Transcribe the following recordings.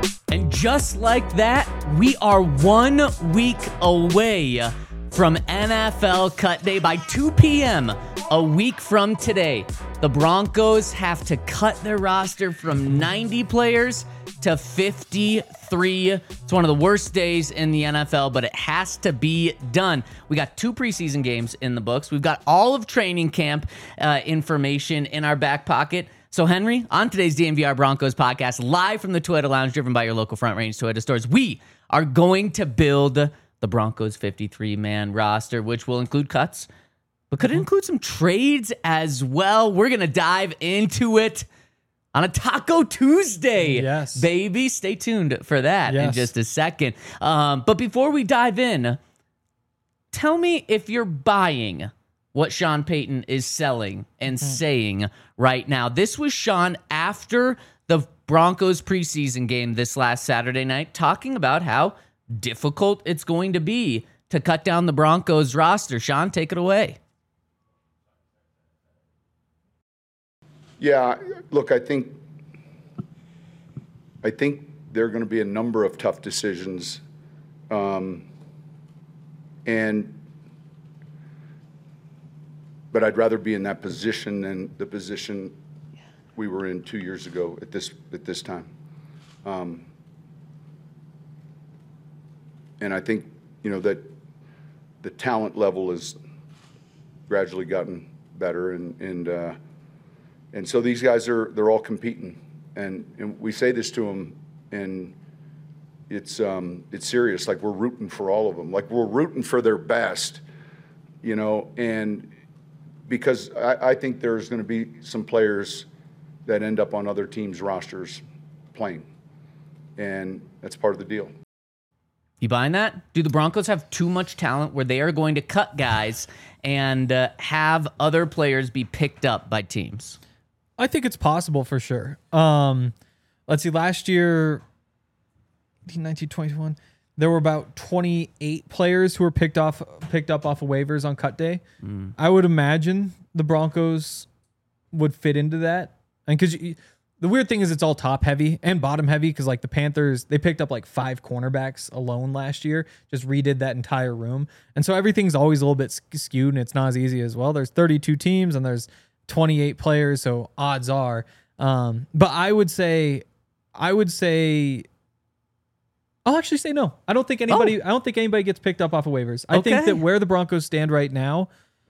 And just like that, we are 1 week away from NFL Cut Day. By 2 p.m. a week from today, the Broncos have to cut their roster from 90 players to 53. It's one of the worst days in the NFL, but it has to be done. We got 2 preseason games in the books. We've got all of training camp information in our back pocket. So, Henry, on today's DNVR Broncos podcast, live from the Toyota Lounge, driven by your local Front Range Toyota stores, we are going to build the Broncos 53-man roster, which will include cuts, but could include some trades as well. We're going to dive into it on a Taco Tuesday, yes, baby. Stay tuned for that in just a second. But before we dive in, tell me if you're buying what Sean Payton is selling and saying right now. This was Sean after the Broncos preseason game this last Saturday night, talking about how difficult it's going to be to cut down the Broncos roster. Sean, take it away. Yeah, look, I think there are going to be a number of tough decisions, but I'd rather be in that position than the position we were in 2 years ago at this time. And I think, that the talent level has gradually gotten better, and so these guys they're all competing, and we say this to them, and it's serious. Like, we're rooting for all of them. Like, we're rooting for their best, and because I think there's going to be some players that end up on other teams' rosters playing, and that's part of the deal. You buying that? Do the Broncos have too much talent where they are going to cut guys and have other players be picked up by teams? I think it's possible for sure. Let's see, last year, 19, 21, there were about 28 players who were picked up off of waivers on cut day. I would imagine the Broncos would fit into that. And because the weird thing is it's all top heavy and bottom heavy, because like the Panthers, they picked up like 5 cornerbacks alone last year, just redid that entire room. And so everything's always a little bit skewed, and it's not as easy as, well, there's 32 teams and there's 28 players, so odds are. But I would say I'll actually say no. I don't think anybody gets picked up off of waivers. I think that where the Broncos stand right now,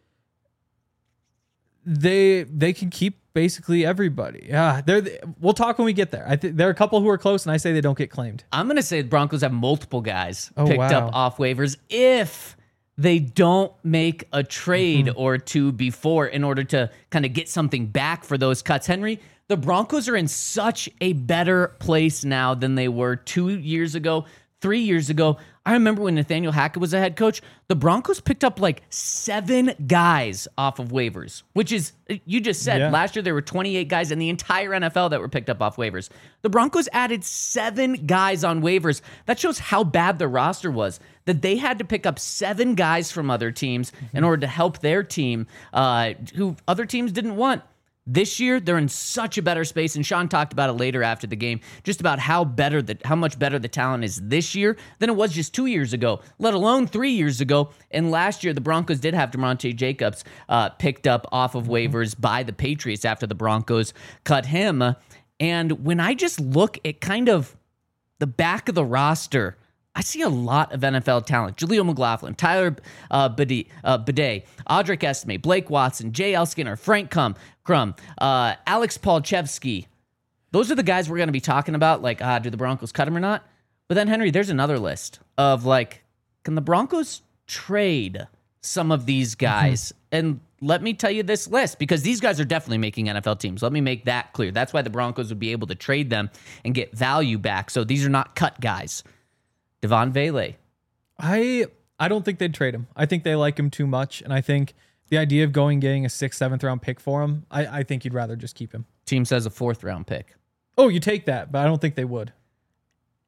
they can keep basically everybody. Yeah, we'll talk when we get there. I think there are a couple who are close, and I say they don't get claimed. I'm going to say the Broncos have multiple guys picked up off waivers if they don't make a trade or two before in order to kind of get something back for those cuts. Henry, the Broncos are in such a better place now than they were 2 years ago, 3 years ago. I remember when Nathaniel Hackett was a head coach, the Broncos picked up like 7 guys off of waivers, which is, you just said, last year there were 28 guys in the entire NFL that were picked up off waivers. The Broncos added 7 guys on waivers. That shows how bad the roster was, that they had to pick up 7 guys from other teams in order to help their team, who other teams didn't want. This year, they're in such a better space, and Sean talked about it later after the game, just about how much better the talent is this year than it was just 2 years ago, let alone 3 years ago. And last year, the Broncos did have DeMonte Jacobs picked up off of waivers by the Patriots after the Broncos cut him. And when I just look at kind of the back of the roster, I see a lot of NFL talent. Jaleel McLaughlin, Tyler Bidet, Audric Estime, Blake Watson, J.L. Skinner, Frank Crum, Alex Palchevsky. Those are the guys we're going to be talking about, like, do the Broncos cut him or not? But then, Henry, there's another list of, like, can the Broncos trade some of these guys? And let me tell you this list, because these guys are definitely making NFL teams. Let me make that clear. That's why the Broncos would be able to trade them and get value back. So these are not cut guys. Devon Vele. I don't think they'd trade him. I think they like him too much, and I think the idea of getting a 6th, 7th round pick for him, I think you'd rather just keep him. Team says a 4th round pick. Oh, you take that, but I don't think they would.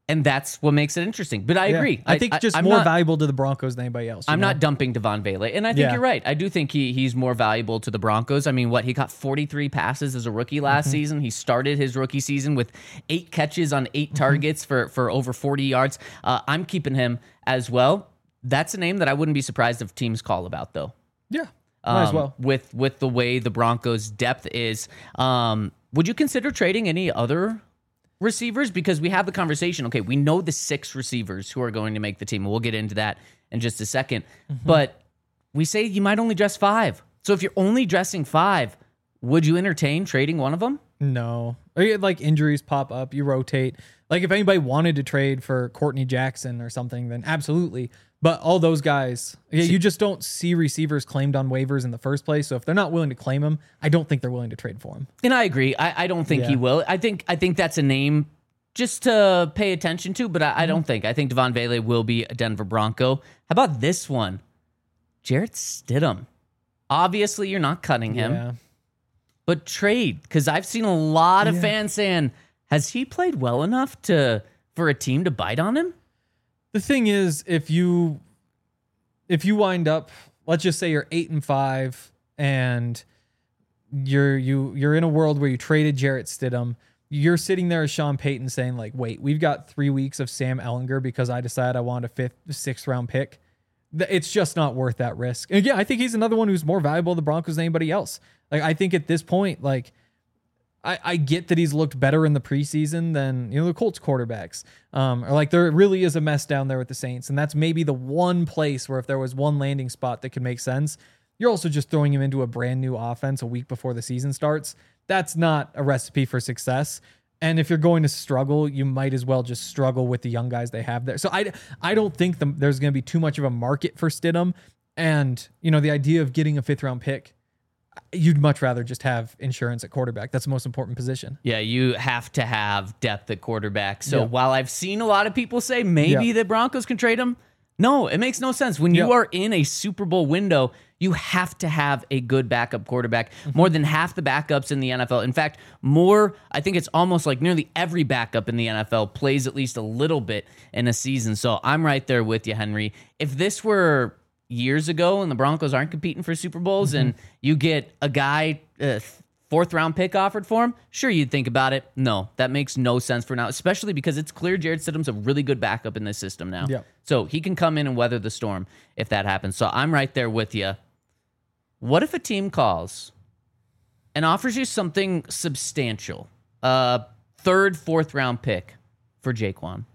And that's what makes it interesting. But I agree. I think just I'm more not, valuable to the Broncos than anybody else. I'm not dumping Devon Bailey. And I think you're right. I do think he's more valuable to the Broncos. I mean, he got 43 passes as a rookie last season. He started his rookie season with 8 catches on 8 targets for over 40 yards. I'm keeping him as well. That's a name that I wouldn't be surprised if teams call about, though. Yeah, might as well. With the way the Broncos' depth is. Would you consider trading any other receivers? Because we have the conversation. Okay, we know the 6 receivers who are going to make the team. We'll get into that in just a second. But we say you might only dress 5. So if you're only dressing 5, would you entertain trading one of them? No. Like injuries pop up, you rotate. Like if anybody wanted to trade for Courtney Jackson or something, then absolutely. But all those guys, you just don't see receivers claimed on waivers in the first place. So if they're not willing to claim him, I don't think they're willing to trade for him. And I agree. I don't think he will. I think that's a name just to pay attention to, but I don't think. I think Devon Bailey will be a Denver Bronco. How about this one? Jarrett Stidham. Obviously, you're not cutting him, but trade. Because I've seen a lot of fans saying, has he played well enough for a team to bite on him? The thing is, if you wind up, let's just say you're 8-5 and you're in a world where you traded Jarrett Stidham, you're sitting there as Sean Payton saying like, wait, we've got 3 weeks of Sam Ehlinger because I decided I want a 5th, 6th round pick. It's just not worth that risk. And again, I think he's another one who's more valuable to the Broncos than anybody else. Like, I think at this point, like, I get that he's looked better in the preseason than, the Colts quarterbacks. Or like there really is a mess down there with the Saints. And that's maybe the one place where if there was one landing spot that could make sense, you're also just throwing him into a brand new offense a week before the season starts. That's not a recipe for success. And if you're going to struggle, you might as well just struggle with the young guys they have there. So I don't think there's going to be too much of a market for Stidham. And, the idea of getting a 5th round pick, you'd much rather just have insurance at quarterback. That's the most important position. Yeah, you have to have depth at quarterback. So while I've seen a lot of people say maybe the Broncos can trade him, no, it makes no sense. When you are in a Super Bowl window, you have to have a good backup quarterback. More than half the backups in the NFL. In fact, I think it's almost like nearly every backup in the NFL plays at least a little bit in a season. So I'm right there with you, Henry. If this were years ago and the Broncos aren't competing for Super Bowls and you get a guy 4th round pick offered for him, sure, you'd think about it. No, that makes no sense for now, especially because it's clear Jarrett Stidham's a really good backup in this system now. So he can come in and weather the storm if that happens. So I'm right there with you. What if a team calls and offers you something substantial, 3rd, 4th round pick for Jaquan?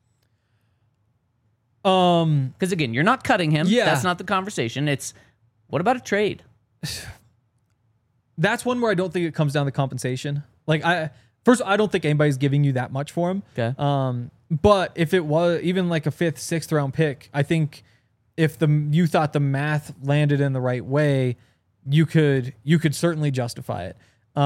Because again, you're not cutting him. That's not the conversation. It's what about a trade? That's one where I don't think it comes down to compensation. Like I don't think anybody's giving you that much for him. Okay. But if it was even like a 5th, 6th round pick, I think if you thought the math landed in the right way, you could certainly justify it.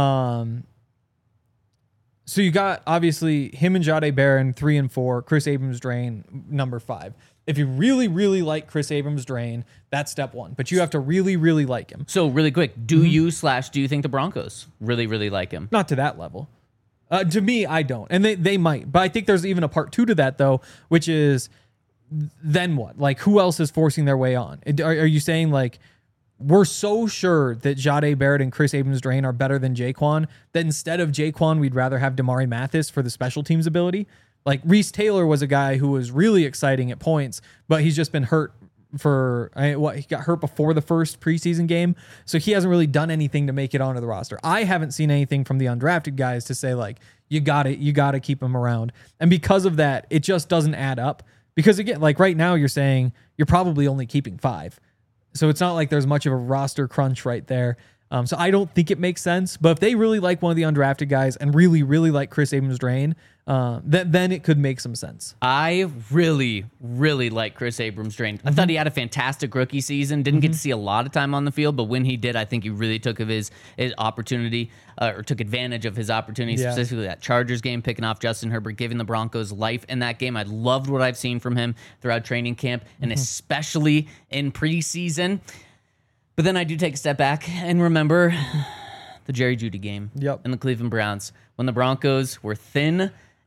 So you got obviously him and Jahdae Barron 3 and 4, Chris Abrams-Draine number 5. If you really, really like Chris Abrams-Draine, that's step 1. But you have to really, really like him. So really quick, do you think the Broncos really, really like him? Not to that level. To me, I don't. And they might. But I think there's even a part 2 to that, though, which is then what? Like, who else is forcing their way on? Are you saying, like, we're so sure that Jahdae Barrett and Chris Abrams-Draine are better than Jaquan that instead of Jaquan, we'd rather have Damari Mathis for the special teams ability? Like, Reese Taylor was a guy who was really exciting at points, but he's just been hurt he got hurt before the first preseason game, so he hasn't really done anything to make it onto the roster. I haven't seen anything from the undrafted guys to say, like, you got to keep him around. And because of that, it just doesn't add up. Because again, like right now you're saying you're probably only keeping 5. So it's not like there's much of a roster crunch right there. So I don't think it makes sense. But if they really like one of the undrafted guys and really, really like Chris Abrams-Draine, then it could make some sense. I really, really like Chris Abrams-Draine. I thought he had a fantastic rookie season. Didn't get to see a lot of time on the field, but when he did, I think he really took of his opportunity or took advantage of his opportunity, specifically that Chargers game, picking off Justin Herbert, giving the Broncos life in that game. I loved what I've seen from him throughout training camp and especially in preseason. But then I do take a step back and remember the Jerry Jeudy game and the Cleveland Browns when the Broncos were thin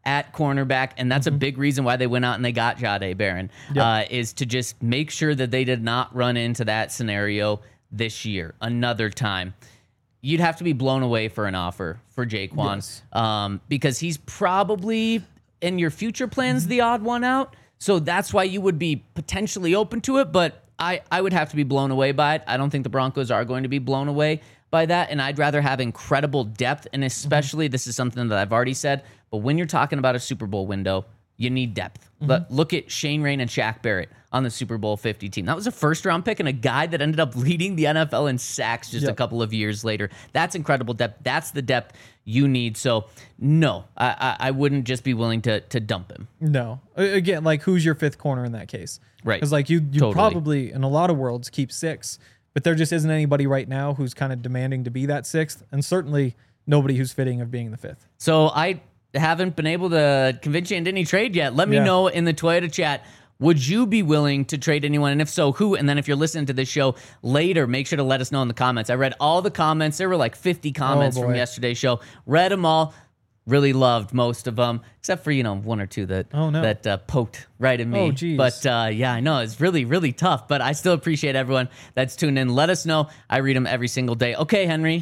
at cornerback, and that's a big reason why they went out and they got Jahdae Barron, is to just make sure that they did not run into that scenario this year another time. You'd have to be blown away for an offer for Jaquan, because he's probably in your future plans the odd one out. So that's why you would be potentially open to it, but I would have to be blown away by it. I don't think the Broncos are going to be blown away by that, and I'd rather have incredible depth, and especially, this is something that I've already said, but when you're talking about a Super Bowl window, you need depth. Look at Shane Rain and Shaq Barrett on the Super Bowl 50 team. That was a first-round pick and a guy that ended up leading the NFL in sacks just a couple of years later. That's incredible depth. That's the depth you need. So, no, I wouldn't just be willing to dump him. No. Again, like, who's your fifth corner in that case? Right. Because, like, you totally. Probably, in a lot of worlds, keep six, but there just isn't anybody right now who's kind of demanding to be that sixth, and certainly nobody who's fitting of being the fifth. So, I haven't been able to convince you into any trade yet. Let me know in the Toyota chat. Would you be willing to trade anyone? And if so, who? And then if you're listening to this show later, make sure to let us know in the comments. I read all the comments. There were like 50 comments from yesterday's show. Read them all. Really loved most of them, except for, one or two that poked right at me. Oh, geez. But yeah, I know. It's really, really tough. But I still appreciate everyone that's tuned in. Let us know. I read them every single day. Okay, Henry.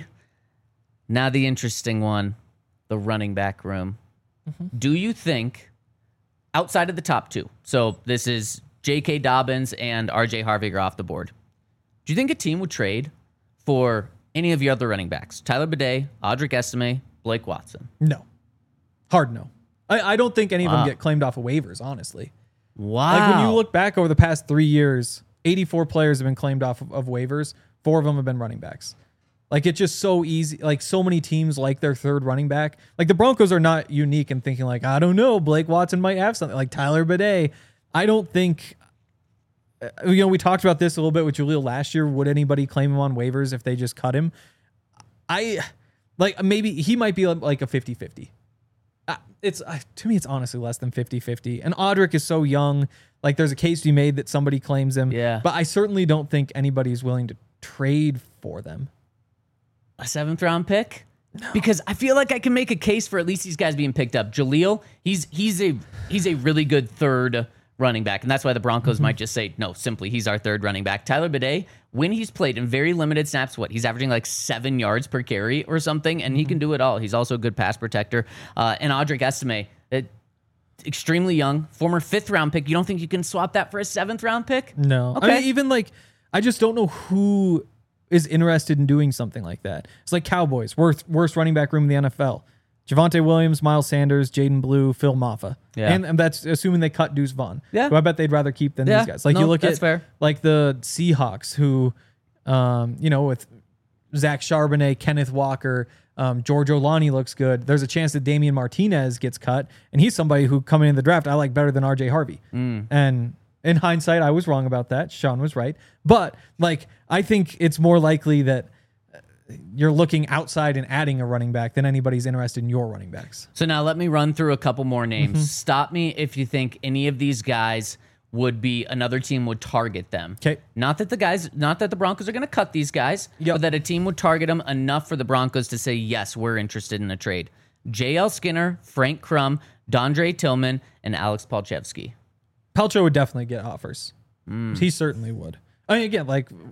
Now the interesting one, the running back room. Do you think, outside of the top two, so this is J.K. Dobbins and R.J. Harvinger off the board, do you think a team would trade for any of your other running backs? Tyler Bidet, Audric Estime, Blake Watson? No. Hard no. I don't think any of them get claimed off of waivers, honestly. Wow. Like, when you look back over the past 3 years, 84 players have been claimed off of waivers. 4 of them have been running backs. Like, it's just so easy. Like, so many teams like their third running back. Like, the Broncos are not unique in thinking, like, I don't know, Blake Watson might have something. Like, Tyler Bidet. I don't think, we talked about this a little bit with Jaleel last year. Would anybody claim him on waivers if they just cut him? Maybe he might be like a 50-50. To me, it's honestly less than 50-50. And Audric is so young. Like, there's a case to be made that somebody claims him. Yeah. But I certainly don't think anybody's willing to trade for them. A 7th round pick? No. Because I feel like I can make a case for at least these guys being picked up. Jaleel, he's a really good third running back, and that's why the Broncos might just say, no, simply he's our third running back. Tyler Bidet, when he's played in very limited snaps, he's averaging like 7 yards per carry or something, and he can do it all. He's also a good pass protector. And Audric Estime, extremely young, former 5th round pick. You don't think you can swap that for a 7th round pick? No. Okay. I mean, I just don't know who is interested in doing something like that. It's like Cowboys, worst running back room in the NFL. Javonte Williams, Miles Sanders, Jaden Blue, Phil Maffa. Yeah. And that's assuming they cut Deuce Vaughn, who I bet they'd rather keep than these guys. Like, you look at fair. Like the Seahawks, who, with Zach Charbonnet, Kenneth Walker, George Olani looks good. There's a chance that Damian Martinez gets cut, and he's somebody who, coming in the draft, I like better than R.J. Harvey. And in hindsight, I was wrong about that. Sean was right. But, I think it's more likely that you're looking outside and adding a running back than anybody's interested in your running backs. So now let me run through a couple more names. Stop me if you think any of these guys would be, another team would target them. Okay. Not that the Broncos are going to cut these guys, but that a team would target them enough for the Broncos to say, yes, we're interested in a trade. J.L. Skinner, Frank Crum, Dondre Tillman, and Alex Palczewski. Palcho would definitely get offers. He certainly would. I mean, again,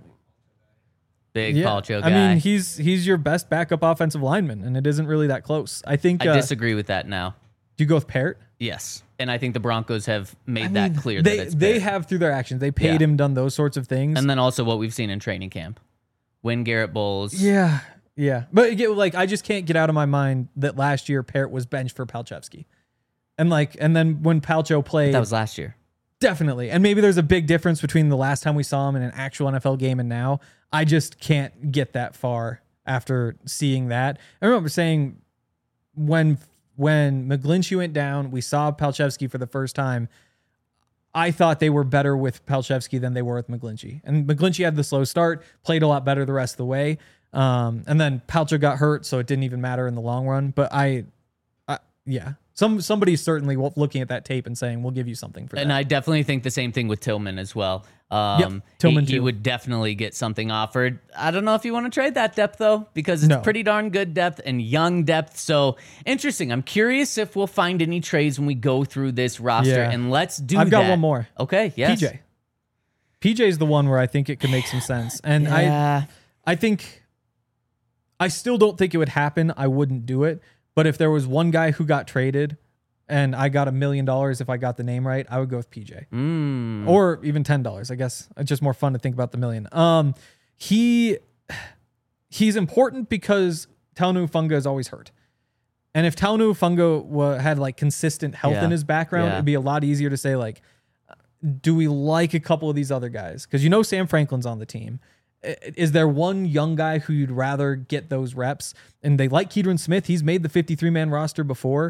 big Palcho guy. I mean, he's your best backup offensive lineman, and it isn't really that close. I think I disagree with that now. Do you go with Parrott? Yes, and I think the Broncos have made that clear. They have through their actions. They paid him, done those sorts of things, and then also what we've seen in training camp, when Garrett Bowles. Yeah. But I just can't get out of my mind that last year Parrott was benched for Palczewski, and then when Palcho played, that was last year. Definitely. And maybe there's a big difference between the last time we saw him in an actual NFL game and now. I just can't get that far after seeing that. I remember saying when McGlinchey went down, we saw Palczewski for the first time. I thought they were better with Palczewski than they were with McGlinchey. And McGlinchey had the slow start, played a lot better the rest of the way. And then Palcho got hurt, so it didn't even matter in the long run. But yeah. Somebody's certainly looking at that tape and saying, we'll give you something for that. And I definitely think the same thing with Tillman as well. Tillman he too. would definitely get something offered. I don't know if you want to trade that depth, though, because it's pretty darn good depth and young depth. So interesting. I'm curious if we'll find any trades when we go through this roster. Yeah. And let's do I've got one more. Okay, yes. PJ is the one where I think it could make some sense. And I think I still don't think it would happen. I wouldn't do it. But if there was one guy who got traded and I got $1 million if I got the name right, I would go with PJ. Or even $10. I guess it's just more fun to think about the million. He's important because Talanoa Hufanga is always hurt. And if Talanoa Hufanga had like consistent health in his background, it'd be a lot easier to say like, do we like a couple of these other guys? Because Sam Franklin's on the team. Is there one young guy who you'd rather get those reps? And they like Keidron Smith. He's made the 53-man roster before.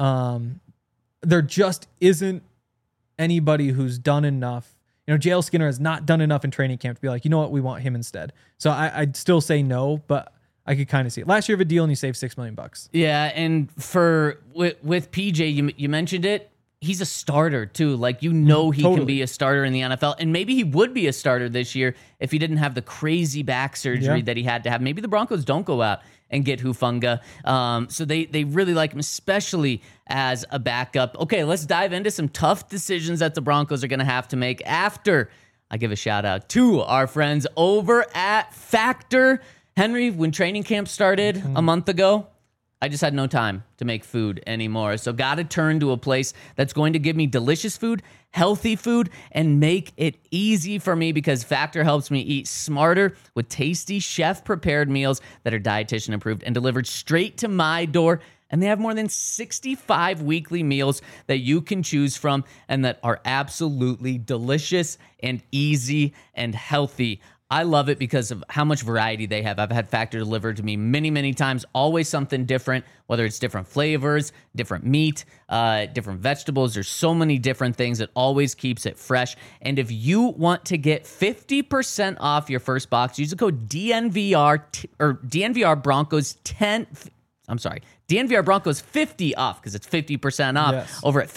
There just isn't anybody who's done enough. JL Skinner has not done enough in training camp to be like, you know what, we want him instead. So I'd still say no, but I could kind of see it. Last year of a deal and you saved $6 million. Yeah, and with PJ, you mentioned it. He's a starter too. Like, he can be a starter in the NFL. And maybe he would be a starter this year if he didn't have the crazy back surgery that he had to have. Maybe the Broncos don't go out and get Hufanga. So they really like him, especially as a backup. Okay, let's dive into some tough decisions that the Broncos are going to have to make after I give a shout out to our friends over at Factor. Henry, when training camp started a month ago, I just had no time to make food anymore. So got to turn to a place that's going to give me delicious food, healthy food, and make it easy for me, because Factor helps me eat smarter with tasty chef-prepared meals that are dietitian approved and delivered straight to my door. And they have more than 65 weekly meals that you can choose from and that are absolutely delicious and easy and healthy. I love it because of how much variety they have. I've had Factor delivered to me many, many times. Always something different, whether it's different flavors, different meat, different vegetables. There's so many different things. It always keeps it fresh. And if you want to get 50% off your first box, use the code DNVR or DNVR Broncos 10. I'm sorry, DNVR Broncos 50 off, because it's 50% off over at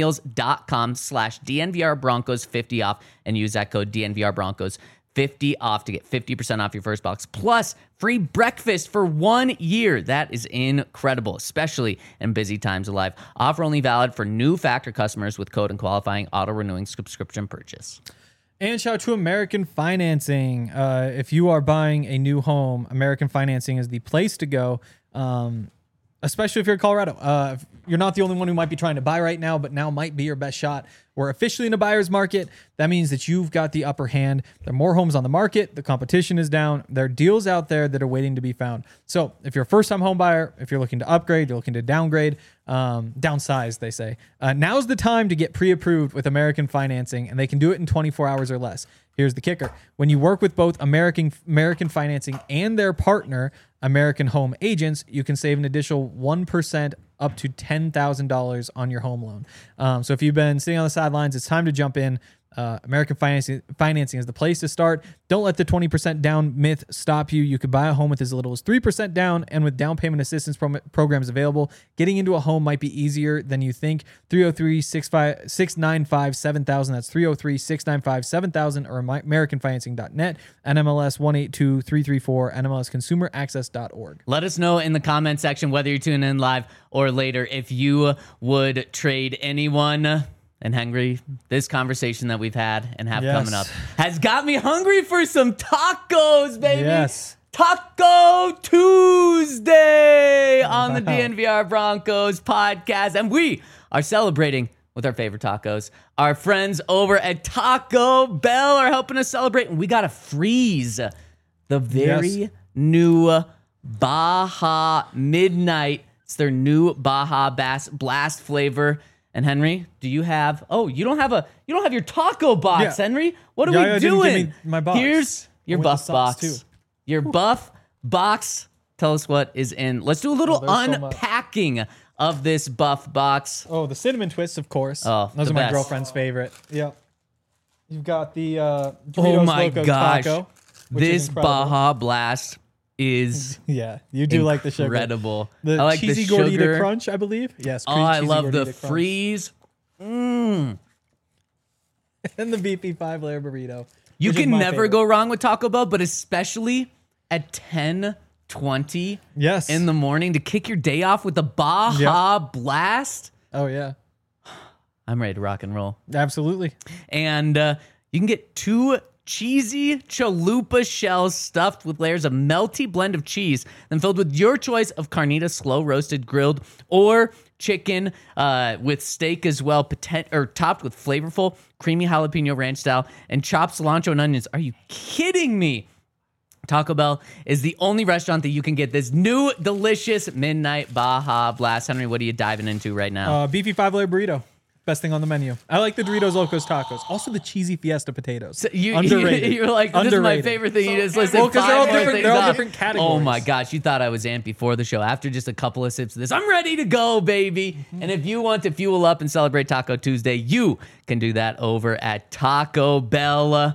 factormeals.com/DNVR Broncos 50 off, and use that code DNVR Broncos 50 off to get 50% off your first box, plus free breakfast for 1 year. That is incredible, especially in busy times of life. Offer only valid for new Factor customers with code and qualifying auto-renewing subscription purchase. And shout out to American Financing. If you are buying a new home, American Financing is the place to go, especially if you're in Colorado. You're not the only one who might be trying to buy right now, but now might be your best shot. We're officially in a buyer's market. That means that you've got the upper hand. There are more homes on the market. The competition is down. There are deals out there that are waiting to be found. So if you're a first-time home buyer, if you're looking to upgrade, you're looking to downgrade, downsize, they say, now's the time to get pre-approved with American Financing, and they can do it in 24 hours or less. Here's the kicker. When you work with both American Financing and their partner, American Home Agents, you can save an additional 1% up to $10,000 on your home loan. So if you've been sitting on the sidelines, it's time to jump in. American Financing is the place to start. Don't let the 20% down myth stop you. You could buy a home with as little as 3% down, and with down payment assistance programs available, getting into a home might be easier than you think. 303-695-7000. That's 303-695-7000 or AmericanFinancing.net. NMLS 182334, NMLSConsumerAccess.org. Let us know in the comment section, whether you're tuning in live or later, if you would trade anyone. And Henry, this conversation that we've had and have coming up has got me hungry for some tacos, baby. Yes. Taco Tuesday on the DNVR Broncos podcast. And we are celebrating with our favorite tacos. Our friends over at Taco Bell are helping us celebrate. And we got to freeze the very new Baja Midnight. It's their new Baja Blast flavor. And Henry, do you have? Oh, you don't have your taco box, Henry. What are we doing? Give me my box. Here's your buff box. Too. Your buff box. Tell us what is in. Let's do a little unpacking of this buff box. Oh, the cinnamon twists, of course. Oh, those are my girlfriend's favorite. Yep. You've got the Doritos Loco Taco, this Baja Blast is Yeah, you do like the sugar. incredible. The I like cheesy the sugar. gordita crunch, I believe. Yes. Oh, I love the Gordita Crunch. freeze. And the beefy 5-layer burrito. You which is can my never favorite. go wrong with Taco Bell, but especially at 10:20 Yes. in the morning to kick your day off with a Baja Blast. Oh yeah, I'm ready to rock and roll. absolutely. And you can get 2 cheesy chalupa shells stuffed with layers of melty blend of cheese, then filled with your choice of carnitas, slow roasted, grilled, or chicken with steak as well, topped with flavorful, creamy jalapeno ranch style, and chopped cilantro and onions. Are you kidding me? Taco Bell is the only restaurant that you can get this new delicious midnight Baja Blast. Henry, what are you diving into right now? Beefy 5-layer burrito. Best thing on the menu. I like the Doritos Locos Tacos. Also the cheesy Fiesta potatoes. So Underrated. You're like, this is my Underrated. favorite thing. You just listed Well, 'cause they're all 5 more different- things they're all off. different categories. Oh my gosh, you thought I was amped before the show. After just a couple of sips of this, I'm ready to go, baby. And if you want to fuel up and celebrate Taco Tuesday, you can do that over at Taco Bell.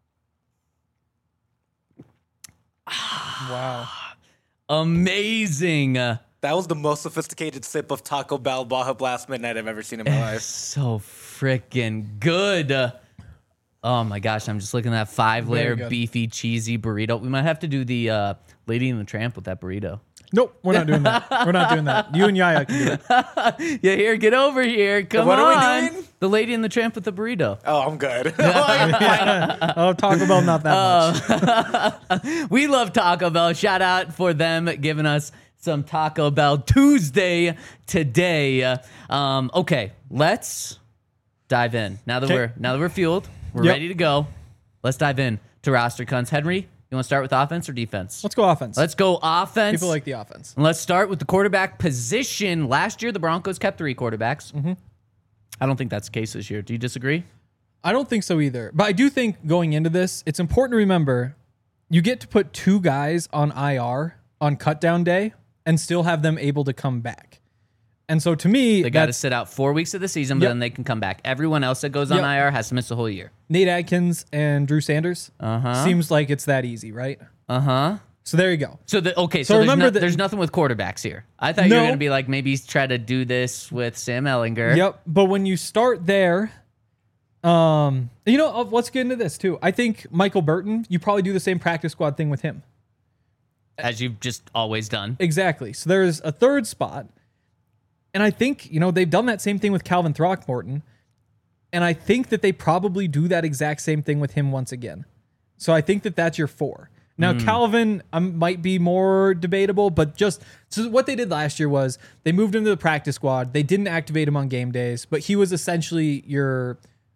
Wow. Amazing. That was the most sophisticated sip of Taco Bell Baja Blast Midnight I've ever seen in my life. So freaking good. Oh my gosh, I'm just looking at that 5-layer Very good. beefy cheesy burrito. We might have to do the Lady and the Tramp with that burrito. Nope, we're not doing that. We're not doing that. You and Yaya can do it. Yeah, here, get over here. Come What on. are we doing? The Lady and the Tramp with the burrito. Oh, I'm good. Oh, Taco Bell, not that much. We love Taco Bell. Shout out for them giving us some Taco Bell Tuesday today. Okay, let's dive in. Now that we're fueled, we're Yep. ready to go. Let's dive in to roster cunts. Henry, you want to start with offense or defense? Let's go offense. Let's go offense. People like the offense. And let's start with the quarterback position. Last year, the Broncos kept 3 quarterbacks. Mm-hmm. I don't think that's the case this year. Do you disagree? I don't think so either. But I do think going into this, it's important to remember you get to put 2 guys on IR on cut down day and still have them able to come back. And so to me, They got to that's sit out 4 weeks of the season, but Yep. then they can come back. Everyone else that goes on Yep. IR has to miss the whole year. Nate Adkins and Drew Sanders. Seems like it's that easy, right? So there you go. So so So there's, remember that- there's nothing with quarterbacks here. I thought you were No. going to be like maybe try to do this with Sam Ellinger. Yep. But when you start there, let's get into this too. I think Michael Burton, you probably do the same practice squad thing with him. As you've just always done. Exactly. So there's a third spot. And I think, they've done that same thing with Calvin Throckmorton. And I think that they probably do that exact same thing with him once again. So I think that that's your 4. Now, Calvin might be more debatable, but so what they did last year was they moved him to the practice squad. They didn't activate him on game days, but he was essentially your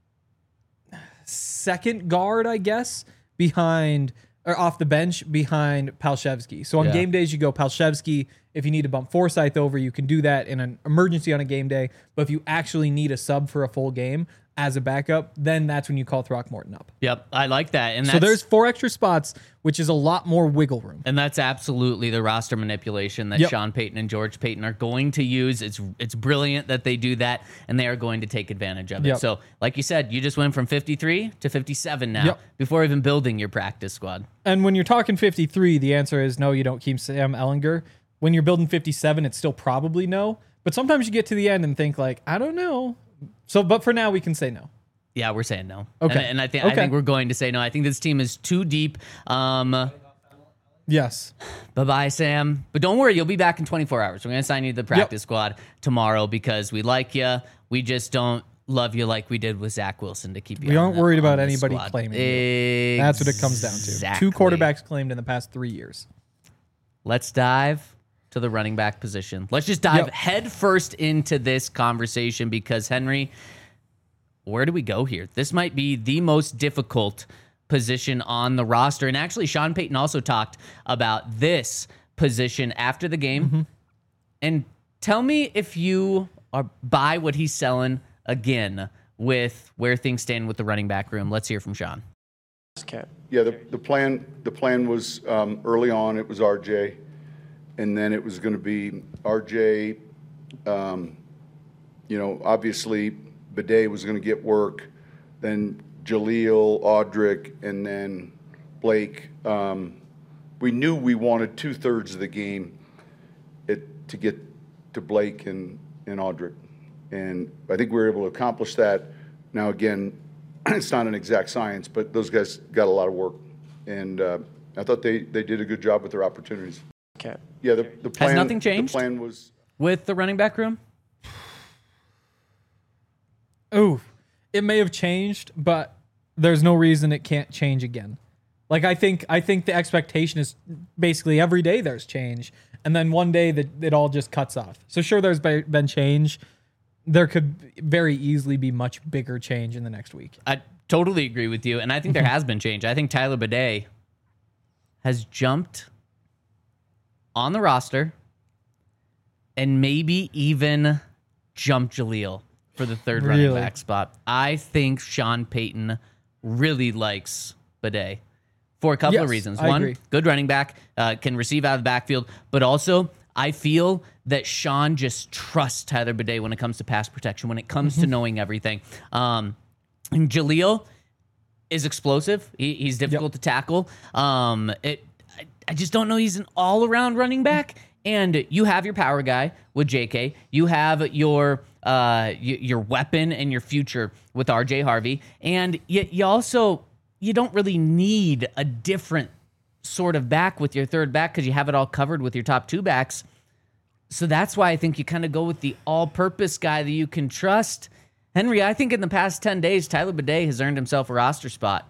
second guard, I guess, off the bench behind Palshevsky. So on Yeah. game days, you go Palshevsky. If you need to bump Forsyth over, you can do that in an emergency on a game day. But if you actually need a sub for a full game as a backup, then that's when you call Throckmorton up. Yep, I like that. And So there's 4 extra spots, which is a lot more wiggle room. And that's absolutely the roster manipulation that Yep. Sean Payton and George Payton are going to use. It's brilliant that they do that, and they are going to take advantage of it. Yep. So, like you said, you just went from 53 to 57 now Yep. before even building your practice squad. And when you're talking 53, the answer is no, you don't keep Sam Ellinger. When you're building 57, it's still probably no. But sometimes you get to the end and think like, I don't know. So, but for now, we can say no. Yeah, we're saying no. Okay. And I think Okay. we're going to say no. I think this team is too deep. Yes. Bye-bye, Sam. But don't worry, you'll be back in 24 hours. We're going to assign you to the practice squad tomorrow because we like you. We just don't love you like we did with Zach Wilson to keep you We on aren't the- worried on about the anybody squad. claiming you. That's what it comes down to. Exactly. 2 quarterbacks claimed in the past 3 years. Let's dive to the running back position. Let's just dive Yep. head first into this conversation because, Henry, where do we go here? This might be the most difficult position on the roster. And actually, Sean Payton also talked about this position after the game. And tell me if you are buy what he's selling again with where things stand with the running back room. Let's hear from Sean. Yeah, the plan was early on, it was RJ, and then it was going to be RJ, obviously Bidet was going to get work, then Jaleel, Audric, and then Blake we knew we wanted 2/3 of the game to get to Blake and Audric. And I think we were able to accomplish that. Now, again, it's not an exact science, but those guys got a lot of work. And I thought they did a good job with their opportunities. Okay. Yeah, the plan. Has nothing changed? The plan was with the running back room? Ooh, it may have changed, but there's no reason it can't change again. Like I think the expectation is basically every day there's change, and then one day that it all just cuts off. So sure, there's been change. There could very easily be much bigger change in the next week. I totally agree with you, and I think there has been change. I think Tyler Bidet has jumped on the roster and maybe even jumped Jaleel for the third running back spot. I think Sean Payton really likes Bidet for a couple of reasons. I One, agree. good running back, can receive out of the backfield, but also I feel that Sean just trusts Tyler Bidet when it comes to pass protection, when it comes to knowing everything. And Jaleel is explosive. He's difficult to tackle. I just don't know he's an all-around running back. And you have your power guy with JK. You have your weapon and your future with RJ Harvey. And you also, you don't really need a different sort of back with your third back because you have it all covered with your top two backs. So that's why I think you kind of go with the all-purpose guy that you can trust. Henry, I think in the past 10 days, Tyler Bidet has earned himself a roster spot.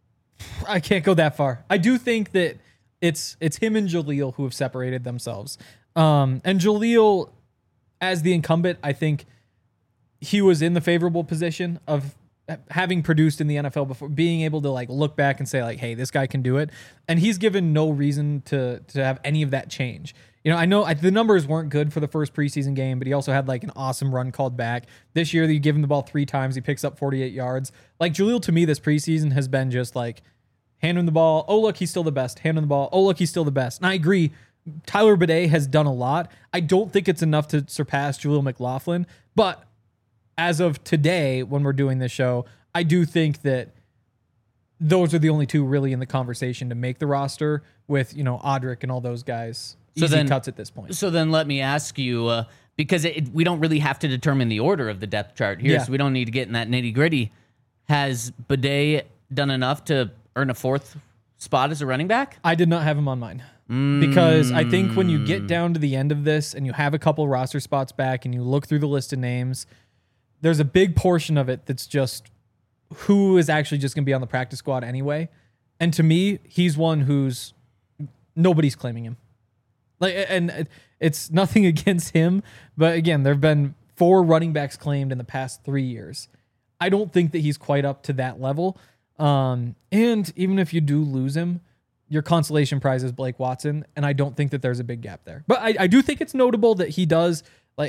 I can't go that far. I do think that it's him and Jaleel who have separated themselves. And Jaleel, as the incumbent, I think he was in the favorable position of having produced in the NFL before, being able to like look back and say like, hey, this guy can do it. And he's given no reason to have any of that change. You know, I know the numbers weren't good for the first preseason game, but he also had like an awesome run called back. This year, you give him the ball 3 times, he picks up 48 yards. Like Jaleel, to me, this preseason has been just like, hand him the ball. Oh, look, he's still the best. Hand him the ball. Oh, look, he's still the best. And I agree. Tyler Bidet has done a lot. I don't think it's enough to surpass Jaleel McLaughlin. But as of today, when we're doing this show, I do think that those are the only two really in the conversation to make the roster with, you know, Audric and all those guys. So easy cuts at this point. So then let me ask you, because we don't really have to determine the order of the depth chart here, so we don't need to get in that nitty gritty. Has Bidet done enough to earn a 4th spot as a running back? I did not have him on mine. Because I think when you get down to the end of this and you have a couple roster spots back and you look through the list of names, there's a big portion of it that's just who is actually just going to be on the practice squad anyway. And to me, he's one who's nobody's claiming him. Like, and it's nothing against him, but again, there have been 4 running backs claimed in the past 3 years. I don't think that he's quite up to that level. And even if you do lose him, your consolation prize is Blake Watson, and I don't think that there's a big gap there. But I do think it's notable that he does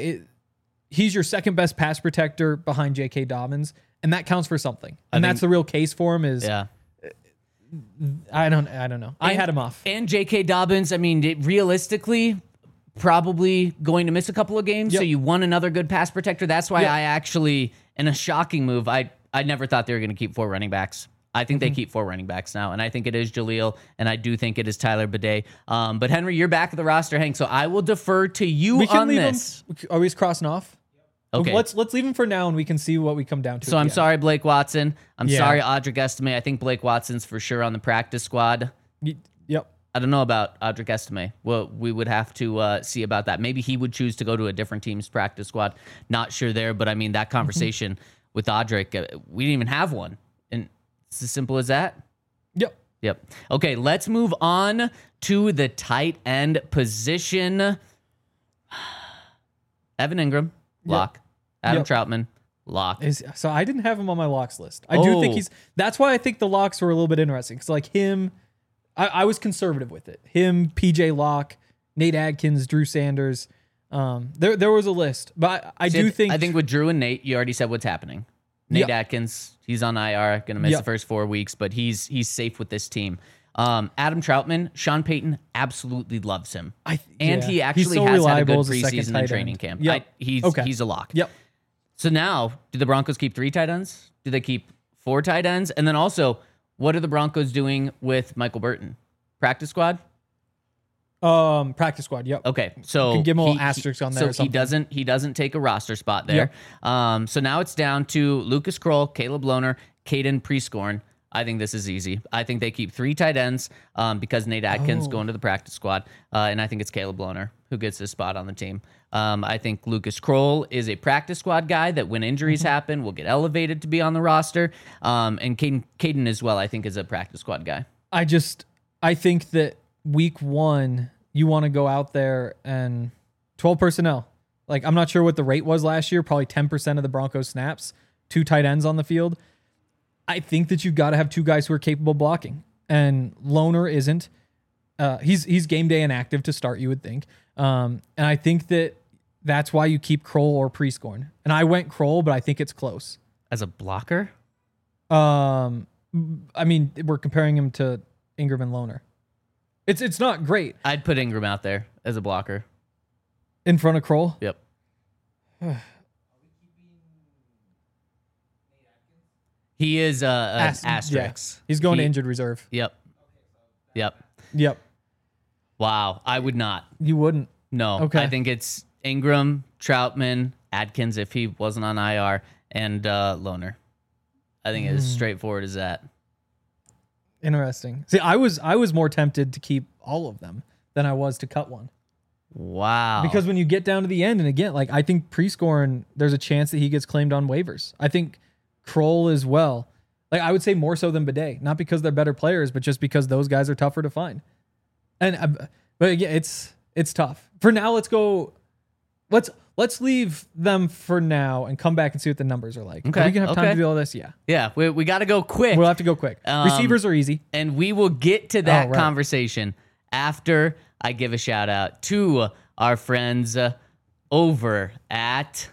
he's your second best pass protector behind J.K. Dobbins, and that counts for something. And that's the real case for him. I don't know. I had him off. And J.K. Dobbins, I mean, realistically, probably going to miss a couple of games. Yep. So you want another good pass protector. That's why I actually, in a shocking move, I never thought they were going to keep 4 running backs. I think they keep 4 running backs now, and I think it is Jaleel, and I do think it is Tyler Bidet. But Henry, you're back at the roster, Hank, so I will defer to you on this. Are we crossing off? Okay. Let's leave him for now, and we can see what we come down to. So I'm sorry, Blake Watson. I'm sorry, Audric Estime. I think Blake Watson's for sure on the practice squad. Yep. I don't know about Audric Estime. Well, we would have to see about that. Maybe he would choose to go to a different team's practice squad. Not sure there, but I mean, that conversation with Audric, we didn't even have one. And it's as simple as that. Yep. Okay, let's move on to the tight end position. Evan Ingram, lock. Adam Troutman, lock. So I didn't have him on my locks list. I do think that's why I think the locks were a little bit interesting. Because like him, I was conservative with it. Him, PJ Locke, Nate Adkins, Drew Sanders. There was a list. But I think with Drew and Nate, you already said what's happening. Nate Atkins, he's on IR, going to miss the first 4 weeks, but he's safe with this team. Adam Troutman, Sean Payton absolutely loves him. He actually has had a good preseason and training camp. He's a lock. Yep. So now, do the Broncos keep 3 tight ends? Do they keep 4 tight ends? And then also, what are the Broncos doing with Michael Burton? Practice squad? Practice squad. Yep. Okay, so can give him a little asterisk on there or So he doesn't take a roster spot there. So now it's down to Lucas Kroll, Caleb Lohner, Caden Prescorn. I think this is easy. I think they keep 3 tight ends because Nate Atkins going to the practice squad, and I think it's Caleb Lohner who gets this spot on the team. I think Lucas Kroll is a practice squad guy that when injuries happen will get elevated to be on the roster, and Caden as well. I think is a practice squad guy. I think that week 1 you want to go out there and 12 personnel. Like, I'm not sure what the rate was last year. Probably 10% of the Broncos snaps, 2 tight ends on the field. I think that you've got to have 2 guys who are capable of blocking, and Lohner isn't. He's game day inactive to start, you would think. And I think that's why you keep Kroll or Prescorn. And I went Kroll, but I think it's close. As a blocker? I mean, we're comparing him to Ingram and Lohner. It's not great. I'd put Ingram out there as a blocker. In front of Kroll? Yep. He is an asterisk. Yeah. He's going to injured reserve. Yep. Wow. I would not. You wouldn't? No. Okay. I think it's Ingram, Troutman, Adkins if he wasn't on IR, and Lohner. I think it's as straightforward as that. Interesting. See, I was more tempted to keep all of them than I was to cut one. Wow. Because when you get down to the end, and again, like, I think Prescorn, there's a chance that he gets claimed on waivers. I think Kroll as well. Like, I would say more so than Bidet, not because they're better players, but just because those guys are tougher to find. And but again, it's tough. For now, let's go. Let's leave them for now and come back and see what the numbers are like. Okay. Are we gonna have time to do all this? Yeah. Yeah. We got to go quick. We'll have to go quick. Receivers are easy. And we will get to that conversation after I give a shout out to our friends over at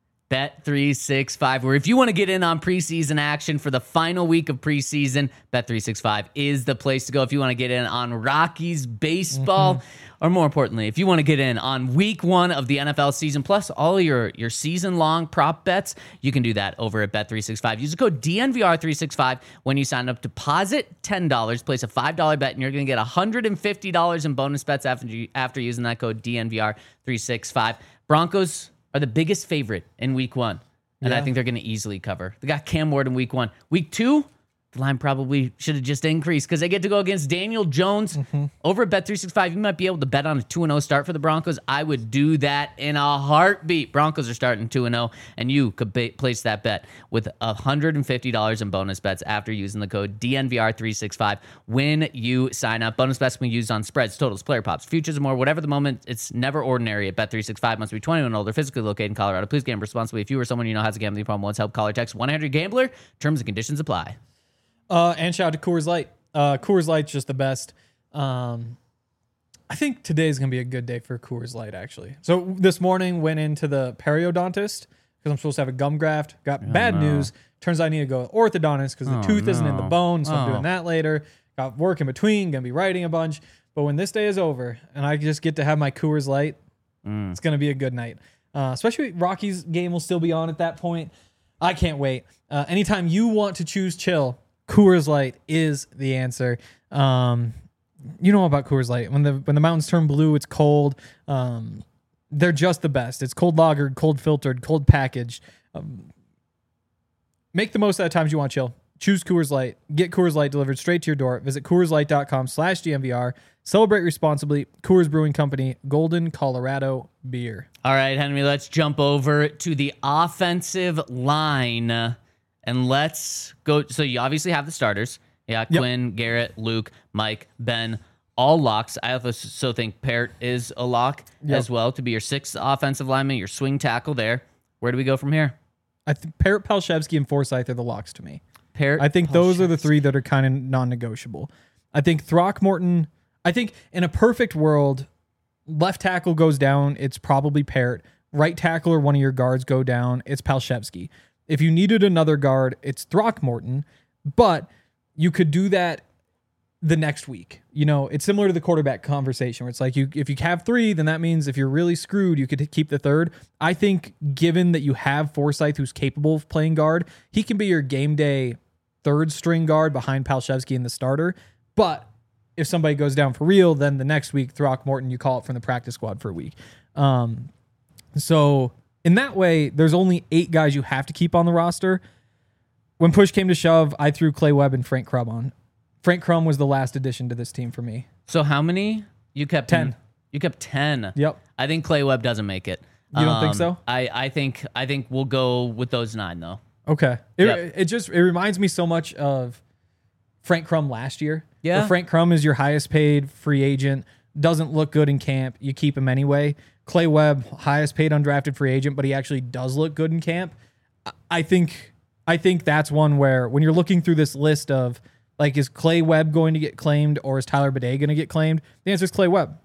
Bet365, where if you want to get in on preseason action for the final week of preseason, Bet365 is the place to go. If you want to get in on Rockies baseball, or more importantly, if you want to get in on week 1 of the NFL season, plus all your season-long prop bets, you can do that over at Bet365. Use the code DNVR365 when you sign up. Deposit $10, place a $5 bet, and you're going to get $150 in bonus bets after using that code DNVR365. Broncos are the biggest favorite in week 1. And I think they're going to easily cover. They got Cam Ward in week 1. Week 2, the line probably should have just increased because they get to go against Daniel Jones. Over at Bet365, you might be able to bet on a 2-0 start for the Broncos. I would do that in a heartbeat. Broncos are starting 2-0, and you could place that bet with $150 in bonus bets after using the code DNVR365 when you sign up. Bonus bets can be used on spreads, totals, player props, futures, and more. Whatever the moment, it's never ordinary at Bet365. Must be 21 and older, physically located in Colorado. Please gamble responsibly. If you or someone you know has a gambling problem, once help, call or text 1-800-GAMBLER. Terms and conditions apply. And shout out to Coors Light. Coors Light's just the best. I think today's going to be a good day for Coors Light, actually. So this morning went into the periodontist because I'm supposed to have a gum graft. Got bad news. Turns out I need to go to orthodontist because the tooth isn't in the bone, so I'm doing that later. Got work in between, going to be writing a bunch. But when this day is over and I just get to have my Coors Light, it's going to be a good night. Especially Rockies game will still be on at that point. I can't wait. Anytime you want to choose chill, Coors Light is the answer. You know about Coors Light. When the mountains turn blue, it's cold. They're just the best. It's cold lagered, cold filtered, cold packaged. Make the most out of times you want chill. Choose Coors Light. Get Coors Light delivered straight to your door. Visit CoorsLight.com/DNVR. Celebrate responsibly. Coors Brewing Company, Golden, Colorado beer. All right, Henry, let's jump over to the offensive line. And let's go. So you obviously have the starters. Yeah, Quinn, Garrett, Luke, Mike, Ben, all locks. I also think Parrott is a lock as well to be your 6th offensive lineman, your swing tackle there. Where do we go from here? I think Parrott, Palshevsky, and Forsyth are the locks to me. Parrott, I think those are the 3 that are kind of non-negotiable. I think Throckmorton, I think in a perfect world, left tackle goes down, it's probably Parrott. Right tackle or one of your guards go down, it's Palshevsky. If you needed another guard, it's Throckmorton, but you could do that the next week. You know, it's similar to the quarterback conversation where it's like if you have 3, then that means if you're really screwed, you could keep the 3rd. I think given that you have Forsyth who's capable of playing guard, he can be your game day 3rd string guard behind Palshevsky and the starter. But if somebody goes down for real, then the next week, Throckmorton, you call it from the practice squad for a week. So in that way, there's only 8 guys you have to keep on the roster. When push came to shove, I threw Clay Webb and Frank Crum on. Frank Crum was the last addition to this team for me. So how many? You kept 10. You kept 10. Yep. I think Clay Webb doesn't make it. You don't think so? I think we'll go with those 9 though. Okay. Yep. It reminds me so much of Frank Crum last year. Yeah. Where Frank Crum is your highest paid free agent, doesn't look good in camp. You keep him anyway. Clay Webb, highest paid undrafted free agent, but he actually does look good in camp. I think that's one where when you're looking through this list of like, is Clay Webb going to get claimed or is Tyler Bidet going to get claimed? The answer is Clay Webb.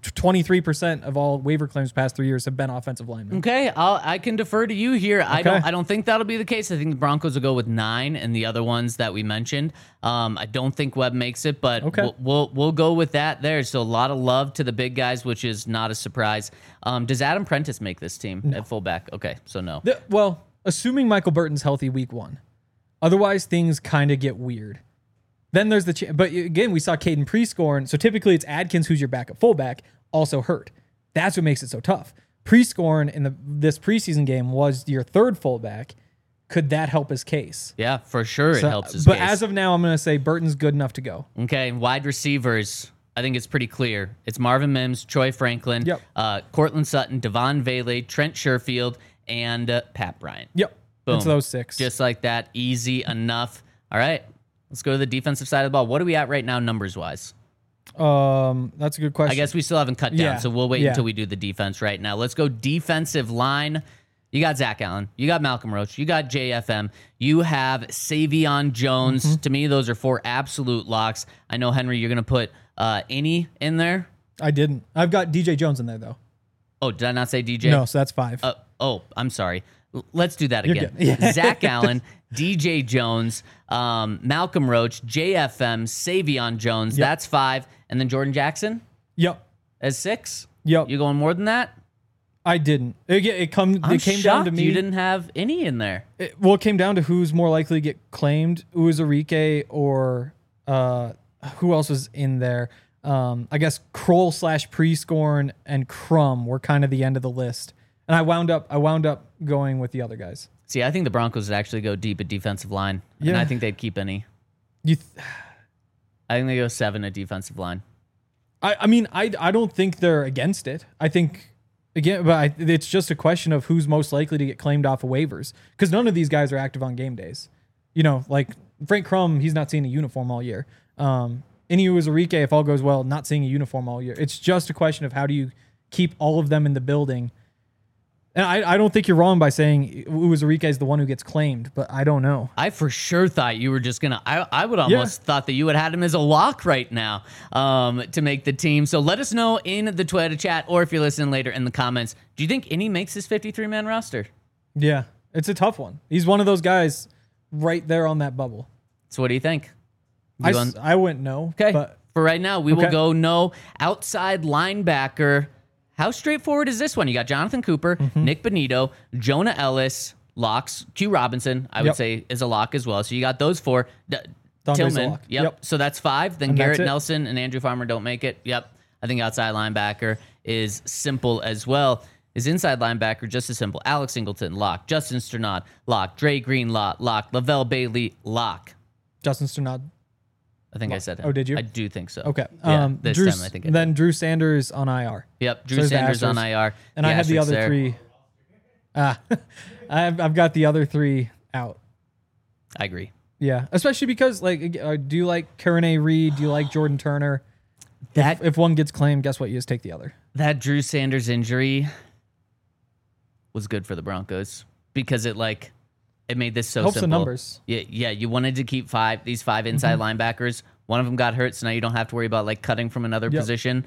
23% of all waiver claims past 3 years have been offensive linemen. Okay, I can defer to you here. Okay. I don't think that'll be the case. I think the Broncos will go with 9 and the other ones that we mentioned. I don't think Webb makes it, but okay. we'll go with that there. So a lot of love to the big guys, which is not a surprise. Does Adam Prentice make this team at fullback? Okay, so no. Well, assuming Michael Burton's healthy week 1. Otherwise, things kind of get weird. Then there's but again, we saw Caden Prescorn. So typically it's Adkins, who's your backup fullback, also hurt. That's what makes it so tough. Prescorn in this preseason game was your 3rd fullback. Could that help his case? Yeah, for sure it helps his but case. But as of now, I'm going to say Burton's good enough to go. Okay, wide receivers, I think it's pretty clear. It's Marvin Mims, Troy Franklin, Cortland Sutton, Devon Vele, Trent Sherfield, and Pat Bryant. Yep. Boom. It's those 6. Just like that. Easy enough. All right. Let's go to the defensive side of the ball. What are we at right now numbers-wise? That's a good question. I guess we still haven't cut down, so we'll wait Yeah. until we do the defense right now. Let's go defensive line. You got Zach Allen. You got Malcolm Roach. You got JFM. You have Savion Jones. To me, those are 4 absolute locks. I know, Henry, you're going to put any in there. I didn't. I've got DJ Jones in there, though. Oh, did I not say DJ? No, so that's 5. I'm sorry. Let's do that again. You're good. Zach Allen, DJ Jones, Malcolm Roach, JFM, Savion Jones. Yep. That's 5. And then Jordan Jackson Yep. as 6? Yep. You going more than that? I didn't. It came down to me. You didn't have any in there. It came down to who's more likely to get claimed, Uwazurike or who else was in there. I guess Kroll / Prescorn and Crum were kind of the end of the list. And I wound up going with the other guys. See, I think the Broncos would actually go deep at defensive line. And Yeah. I think they'd keep any. I think they go 7 at defensive line. I mean, I don't think they're against it. I think, again, but it's just a question of who's most likely to get claimed off of waivers. Because none of these guys are active on game days. You know, like Frank Crum, he's not seeing a uniform all year. Inu Uwazurike, if all goes well, not seeing a uniform all year. It's just a question of how do you keep all of them in the building. And I don't think you're wrong by saying Uwazurike is the one who gets claimed, but I don't know. I for sure thought you were just going to... I would almost thought that you would have had him as a lock right now to make the team. So let us know in the Twitter chat or if you're listening later in the comments. Do you think any makes this 53-man roster? Yeah, it's a tough one. He's one of those guys right there on that bubble. So what do you think? I wouldn't know. Okay, But for right now, we will go no. Outside linebacker... How straightforward is this one? You got Jonathan Cooper, Nick Benito, Jonah Ellis, locks. Q Robinson, I would say, is a lock as well. So you got those 4. Tillman, yep. So that's 5. Then And Garrett that's it. Nelson and Andrew Farmer don't make it. Yep. I think outside linebacker is simple as well. Is inside linebacker just as simple? Alex Singleton, lock. Justin Sternad, lock. Dre Green, lock. Lavelle Bailey, lock. Justin Sternad. I think I said him. Oh, did you? I do think so. Okay. Yeah, this time I think I did. Then Drew Sanders on IR. Yep. Drew there's the Sanders on Astros. IR. And I had the asterisks other there. 3. I've got the other 3 out. I agree. Yeah, especially because do you like Karen A. Reed? Do you like Jordan Turner? If one gets claimed, guess what? You just take the other. That Drew Sanders injury was good for the Broncos because it made this so Helps simple. the numbers. Yeah. You wanted to keep these 5 inside linebackers. One of them got hurt, so now you don't have to worry about cutting from another position.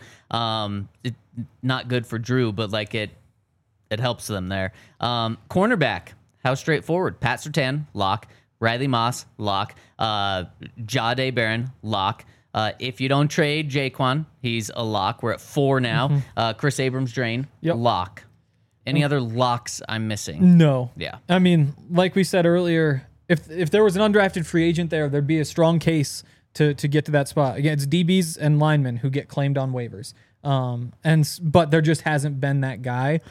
Not good for Drew, but it helps them there. Cornerback, how straightforward? Pat Surtain, lock. Riley Moss, lock. Jahdae Barron, lock. If you don't trade Jaquan, he's a lock. We're at 4 now. Chris Abrams-Drain, lock. Any other locks I'm missing? No. Yeah. I mean, like we said earlier, if there was an undrafted free agent there, there'd be a strong case to get to that spot. Again, it's DBs and linemen who get claimed on waivers. But there just hasn't been that guy.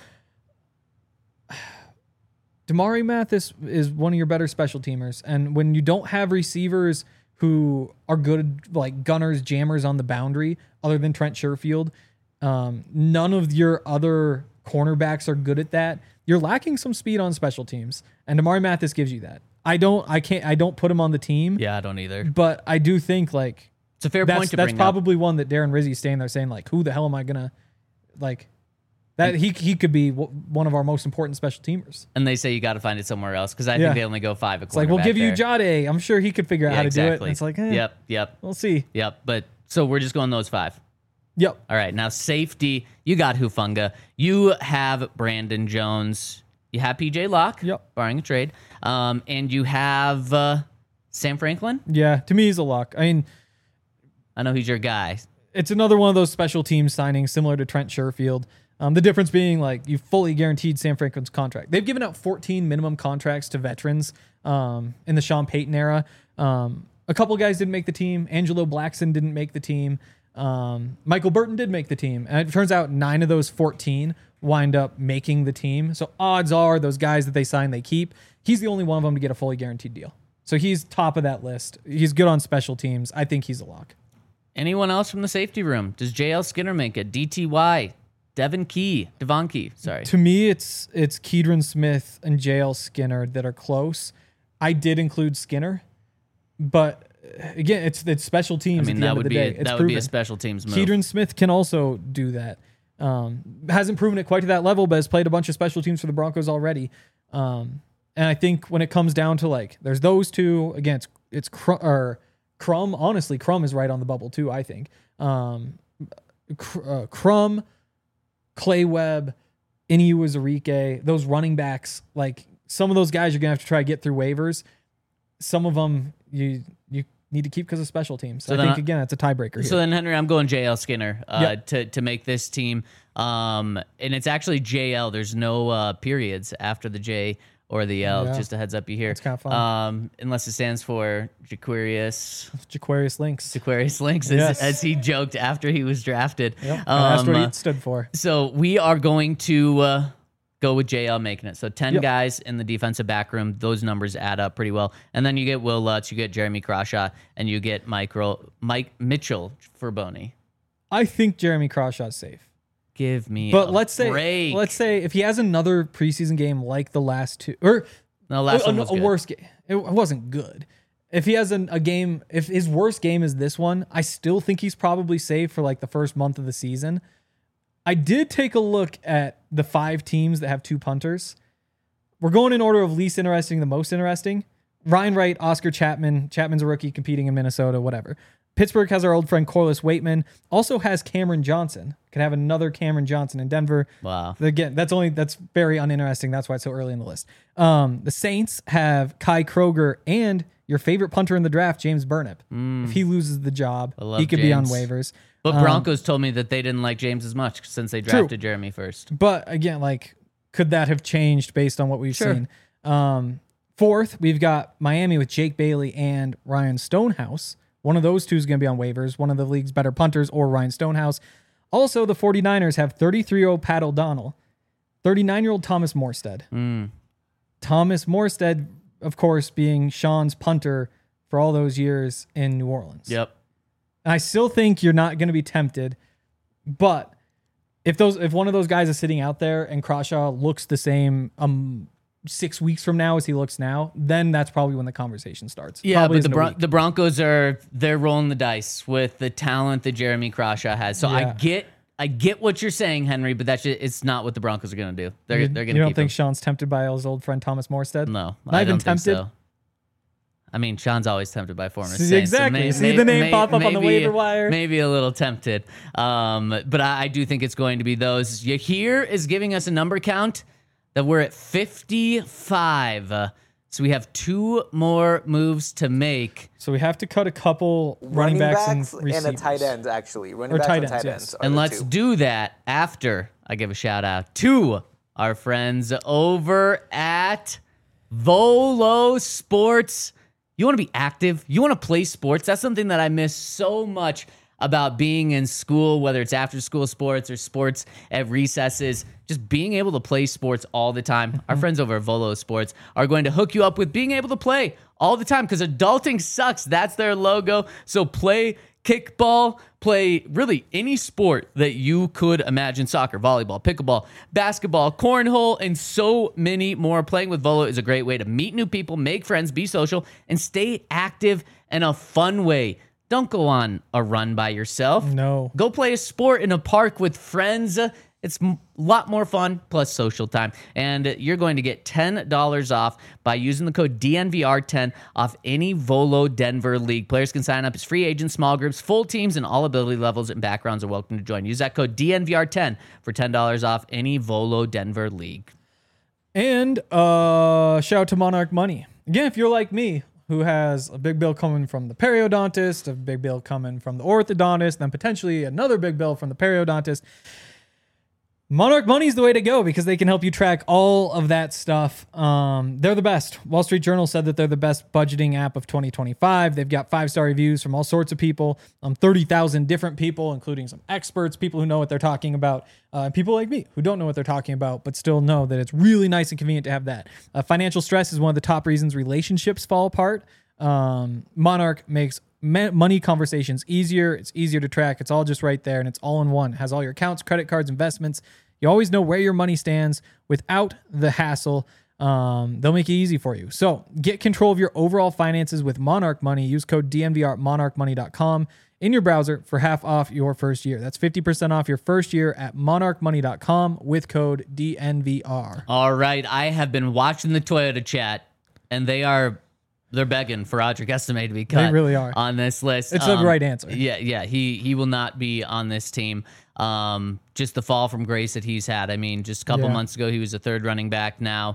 Damari Mathis is one of your better special teamers. And when you don't have receivers who are good, like gunners, jammers on the boundary, other than Trent Sherfield, none of your other cornerbacks are good at that. You're lacking some speed on special teams, and Damari Mathis gives you that. I don't put him on the team. Yeah, I don't either. But I do think like it's a fair point to bring that's probably one that Darren Rizzi's staying there saying like, who the hell am I gonna like? That he could be one of our most important special teamers. And they say you got to find it somewhere else because I think they only go 5 a It's like, we'll give you Jade. I'm sure he could figure out how to do it. And it's like, yep. We'll see. Yep. But so we're just going those 5. Yep. All right. Now, safety, you got Hufanga. You have Brandon Jones. You have PJ Locke, barring a trade. And you have Sam Franklin. Yeah. To me, he's a lock. I mean, I know he's your guy. It's another one of those special teams signings similar to Trent Sherfield. The difference being like you fully guaranteed Sam Franklin's contract. They've given out 14 minimum contracts to veterans in the Sean Payton era. A couple guys didn't make the team. Angelo Blackson didn't make the team. Michael Burton did make the team. And it turns out 9 of those 14 wind up making the team. So odds are those guys that they sign, they keep. He's the only one of them to get a fully guaranteed deal. So he's top of that list. He's good on special teams. I think he's a lock. Anyone else from the safety room? Does JL Skinner make it? DTY? Devon Key, sorry. To me, it's Keedron Smith and JL Skinner that are close. I did include Skinner, but again, it's special teams. I mean, that would be a special teams move. Keedron Smith can also do that. Hasn't proven it quite to that level, but has played a bunch of special teams for the Broncos already. And I think when it comes down to like, there's those two. Again, it's Crum. Honestly, Crum is right on the bubble too. I think Crum, Clay Webb, Inu Uzurike, those running backs, like some of those guys you're going to have to try to get through waivers. Some of them you need to keep because of special teams. So I think, again, it's a tiebreaker here. So then, Henry, I'm going JL Skinner to make this team. And it's actually JL. There's no periods after the J or the L. Yeah. Just a heads up you hear. It's kind of fun. Unless it stands for Jaquarius Lynx. Jaquarius Lynx, as he joked after he was drafted. Yep. That's what it stood for. So we are going to go with JL making it. So 10 guys in the defensive back room. Those numbers add up pretty well. And then you get Will Lutz, you get Jeremy Crawshaw, and you get Mike Mitchell for Boney. I think Jeremy Crawshaw's safe. Give me let's say if he has another preseason game like the last two, or no, last one was a worse game. It wasn't good. If he has a game, if his worst game is this one, I still think he's probably safe for like the first month of the season. I did take a look at the 5 teams that have 2 punters. We're going in order of least interesting to most interesting. Ryan Wright, Oscar Chapman. Chapman's a rookie competing in Minnesota, whatever. Pittsburgh has our old friend Corliss Waitman. Also has Cameron Johnson. Could have another Cameron Johnson in Denver. Wow. Again, that's very uninteresting. That's why it's so early in the list. The Saints have Kai Kroger and your favorite punter in the draft, James Burnip. If he loses the job, he could be on waivers. But Broncos told me that they didn't like James as much since they drafted Jeremy first. But again, like, could that have changed based on what we've seen? Fourth, we've got Miami with Jake Bailey and Ryan Stonehouse. One of those two is going to be on waivers, one of the league's better punters or Ryan Stonehouse. Also, the 49ers have 33-year-old Pat O'Donnell, 39-year-old Thomas Morstead. Thomas Morstead, of course, being Sean's punter for all those years in New Orleans. Yep. And I still think you're not going to be tempted, but if one of those guys is sitting out there and Crawshaw looks the same 6 weeks from now as he looks now, then that's probably when the conversation starts. Yeah, probably but the Broncos they're rolling the dice with the talent that Jeremy Crawshaw has. So I get what you're saying, Henry, but it's not what the Broncos are going to do. They're going to keep You don't think him. Sean's tempted by his old friend Thomas Morstead? No, I don't think so. I mean, Sean's always tempted by former Saints. Exactly. So See the name pop up on the waiver wire. Maybe a little tempted. But I do think it's going to be those. Here is giving us a number count that we're at 55. So we have 2 more moves to make. So we have to cut a couple running backs and receivers. And a tight end, actually. Running backs and tight ends. And let's do that after I give a shout out to our friends over at Volo Sports You want to be active. You want to play sports. That's something that I miss so much about being in school, whether it's after school sports or sports at recesses, just being able to play sports all the time. Our friends over at Volo Sports are going to hook you up with being able to play all the time because adulting sucks. That's their logo. So play kickball, play really any sport that you could imagine. Soccer, volleyball, pickleball, basketball, cornhole, and so many more. Playing with Volo is a great way to meet new people, make friends, be social, and stay active in a fun way. Don't go on a run by yourself. No. Go play a sport in a park with friends. It's a lot more fun, plus social time. And you're going to get $10 off by using the code DNVR10 off any Volo Denver League. Players can sign up as free agents, small groups, full teams, and all ability levels and backgrounds are welcome to join. Use that code DNVR10 for $10 off any Volo Denver League. And shout out to Monarch Money. Again, if you're like me, who has a big bill coming from the periodontist, a big bill coming from the orthodontist, then potentially another big bill from the periodontist, Monarch Money is the way to go because they can help you track all of that stuff. They're the best. Wall Street Journal said that they're the best budgeting app of 2025. They've got 5-star reviews from all sorts of people, 30,000 different people, including some experts, people who know what they're talking about, and people like me who don't know what they're talking about, but still know that it's really nice and convenient to have that. Financial stress is one of the top reasons relationships fall apart. Monarch makes money conversations easier. It's easier to track. It's all just right there, and it's all in one. It has all your accounts, credit cards, investments. You always know where your money stands without the hassle. They'll make it easy for you. So get control of your overall finances with Monarch Money. Use code DNVR at monarchmoney.com in your browser for half off your first year. That's 50% off your first year at monarchmoney.com with code DNVR. All right. I have been watching the Toyota chat, and they're begging for Audric Estime to be cut. They really are on this list. It's the right answer. Yeah. He will not be on this team. Just the fall from grace that he's had. I mean, just a couple months ago, he was a third running back. Now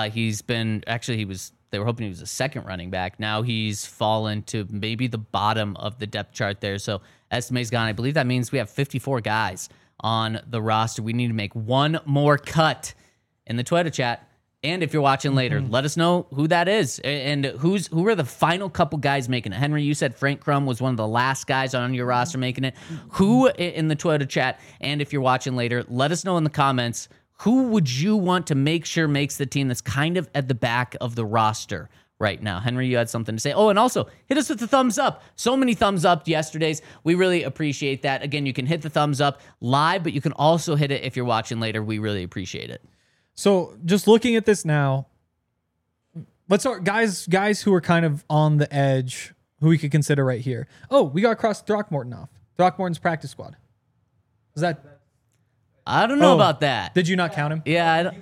they were hoping he was a second running back. Now he's fallen to maybe the bottom of the depth chart there. So Estime's gone. I believe that means we have 54 guys on the roster. We need to make one more cut in the Twitter chat. And if you're watching later, let us know who that is and who are the final couple guys making it. Henry, you said Frank Crum was one of the last guys on your roster making it. Who in the Twitter chat, and if you're watching later, let us know in the comments, who would you want to make sure makes the team that's kind of at the back of the roster right now? Henry, you had something to say. Oh, and also hit us with the thumbs up. So many thumbs up yesterday's. We really appreciate that. Again, you can hit the thumbs up live, but you can also hit it if you're watching later. We really appreciate it. So just looking at this now, let's start guys who are kind of on the edge who we could consider right here. Oh, we got Cross Throckmorton off. Throckmorton's practice squad. Is that? I don't know about that. Did you not count him? Yeah.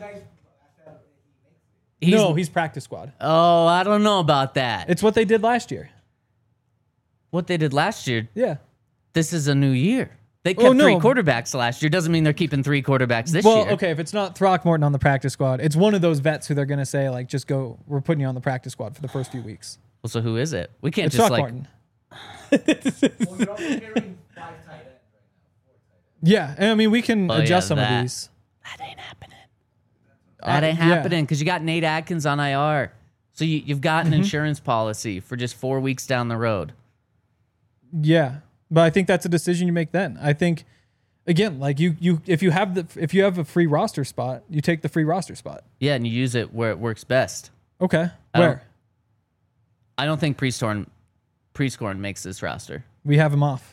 He's practice squad. Oh, I don't know about that. It's what they did last year. What they did last year? Yeah. This is a new year. They kept 3 quarterbacks last year. Doesn't mean they're keeping 3 quarterbacks this year. Well, okay, if it's not Throckmorton on the practice squad, it's one of those vets who they're going to say, like, just go, we're putting you on the practice squad for the first few weeks. Well, so who is it? We can't It's just Throckmorton. Yeah, and I mean, we can adjust some of these. That ain't happening. That ain't happening because you got Nate Adkins on IR. So you've got an insurance policy for just 4 weeks down the road. Yeah. But I think that's a decision you make then. I think, again, like if you have a free roster spot, you take the free roster spot. Yeah, and you use it where it works best. Okay. Where? I don't think Prescorn makes this roster. We have him off.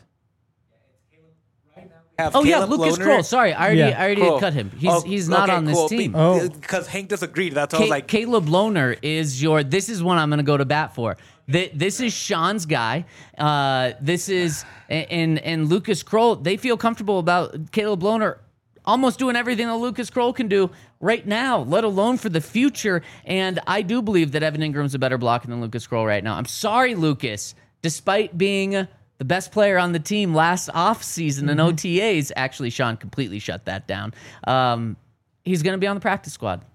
Lucas Kroll. Sorry, I already had cut him. He's not on this team. Because Hank disagreed. That's why I was like, Caleb Lohner is this is one I'm going to go to bat for. This is Sean's guy. This is and Lucas Kroll. They feel comfortable about Caleb Lohner almost doing everything that Lucas Kroll can do right now, let alone for the future. And I do believe that Evan Ingram's a better blocker than Lucas Kroll right now. I'm sorry, Lucas. Despite being the best player on the team last offseason in OTAs, actually, Sean completely shut that down. He's going to be on the practice squad.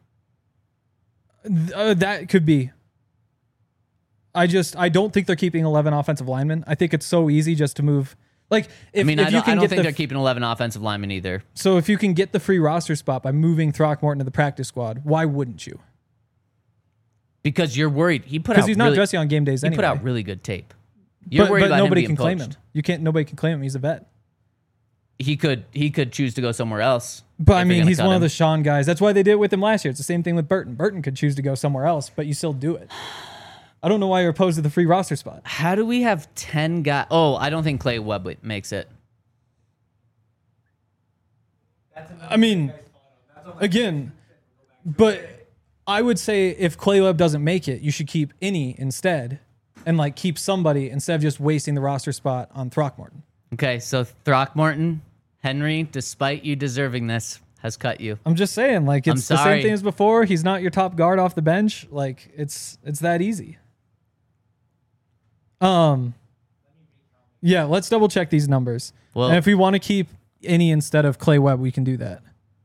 That could be. I don't think they're keeping 11 offensive linemen. I think it's so easy just to move. Like, I don't think they're keeping 11 offensive linemen either. So if you can get the free roster spot by moving Throckmorton to the practice squad, why wouldn't you? Because you're worried. He put out Because he's not really, dressing on game days he anyway. put out really good tape. You're but worried about nobody him being can claim poached. him. You can't. Nobody can claim him. He's a vet. He could choose to go somewhere else. But if I you're mean, gonna he's cut one of him. the Sean guys. That's why they did it with him last year. It's the same thing with Burton. Burton could choose to go somewhere else, but you still do it. I don't know why you're opposed to the free roster spot. How do we have 10 guys? Oh, I don't think Clay Webb makes it. I mean, again, but I would say if Clay Webb doesn't make it, you should keep Innie instead and like keep somebody instead of just wasting the roster spot on Throckmorton. Okay, so Throckmorton, Henry, despite you deserving this, has cut you. I'm just saying, like, it's the sorry. same thing as before. He's not your top guard off the bench. Like, it's that easy. Yeah, let's double check these numbers. Well- and if we want to keep Innie instead of Clay Webb, we can do that.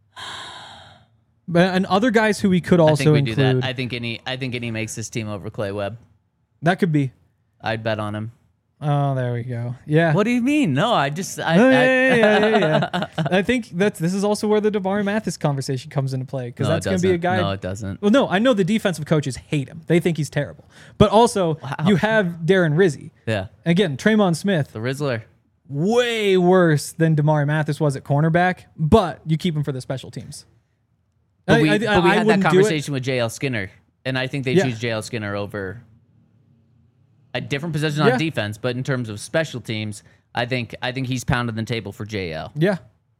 But and other guys who we could I also think we do include. that. I think any makes this team over Clay Webb. That could be. I'd bet on him. Oh, there we go. Yeah. What do you mean? No, I just Oh, yeah. I think this is also where the Damari Mathis conversation comes into play because No, that's it going to be a doesn't. guy. No, it doesn't. Well, no, I know the defensive coaches hate him. They think he's terrible. But also, you have Darren Rizzi. Yeah, Again, Traymon Smith, the Rizzler. way worse than Damari Mathis was at cornerback, but you keep him for the special teams. But we had that wouldn't do it. conversation with JL Skinner, and I think they Yeah. choose JL Skinner over a different position Yeah. on defense. But in terms of special teams, I think he's pounding the table for JL. Yeah.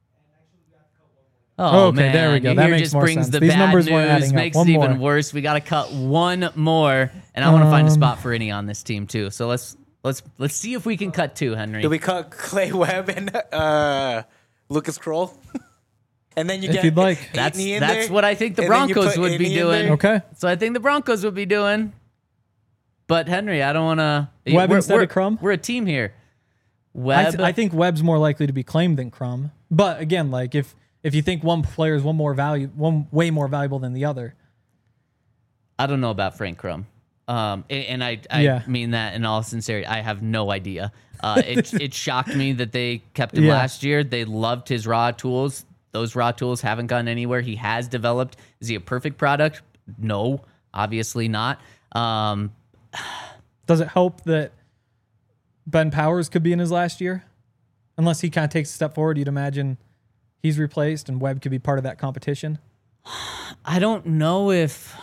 Oh, Okay, man. there we go. Here That makes just more brings sense. the These bad numbers weren't news, adding up. makes One it even more. worse. We got to cut one more, and I want to find a spot for any on this team too. So let's see if we can cut two, Henry. Do we cut Clay Webb and Lucas Kroll? And then you If get you'd like. That's Aitken in that's there, what I think the and then you Broncos put would be Innie in doing. there. Okay. So I think the Broncos would be doing. But Henry, I don't want to. Webb instead of Crum? We're a team here. I, Webb. I think Webb's more likely to be claimed than Crum. But again, like if you think one player is one way more valuable than the other, I don't know about Frank Crum. And I Yeah. mean that in all sincerity. I have no idea. It shocked me that they kept him Yeah. last year. They loved his raw tools. Those raw tools haven't gone anywhere. He has developed. Is he a perfect product? No, obviously not. does it help that Ben Powers could be in his last year? Unless he kind of takes a step forward, you'd imagine he's replaced and Webb could be part of that competition. I don't know if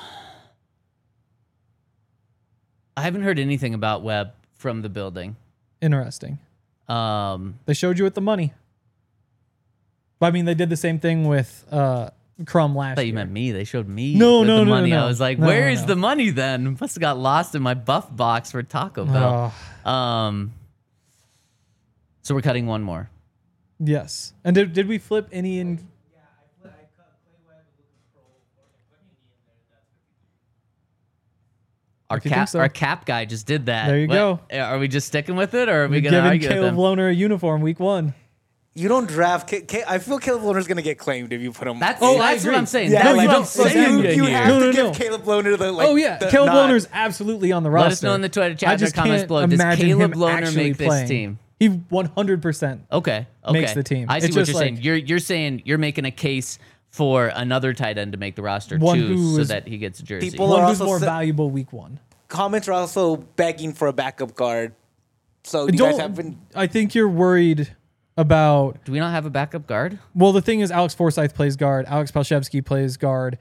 I haven't heard anything about Webb from the building. Interesting. Um, They showed you with the money. But I mean, they did the same thing with Crum last I thought you year. meant me. They showed me No, with no, the no, money. no. I was like, No, where no, is no. the money then? Must have got lost in my buff box for Taco Bell. So we're cutting one more. Yes. And did we flip any in? Our If you think so. our cap guy just did that. There you go. Are we just sticking with it, or are we We're going to giving argue with Caleb him? Lohner a uniform week 1. You don't draft. I feel Caleb Lohner's going to get claimed if you put him. That's Oh, I that's what agree. I'm saying. Yeah, That's no, you what don't I'm say saying that. You here. have No, to no, give no. Caleb Lohner the Oh yeah, Caleb Lohner's absolutely on the roster. Let us know in the Twitter chat I or just comments can't below. Does imagine Caleb him Lohner actually make this playing. team? He 100%. Okay. Makes the team. I see It's what just you're saying. like- You're saying you're making a case for another tight end to make the roster One too, who so is- that he gets a jersey. People- One are who's also more sa- valuable week 1. Comments are also begging for a backup guard. So you guys have been. I think you're worried about. Do we not have a backup guard? Well, the thing is, Alex Forsythe plays guard. Alex Palshevsky plays guard.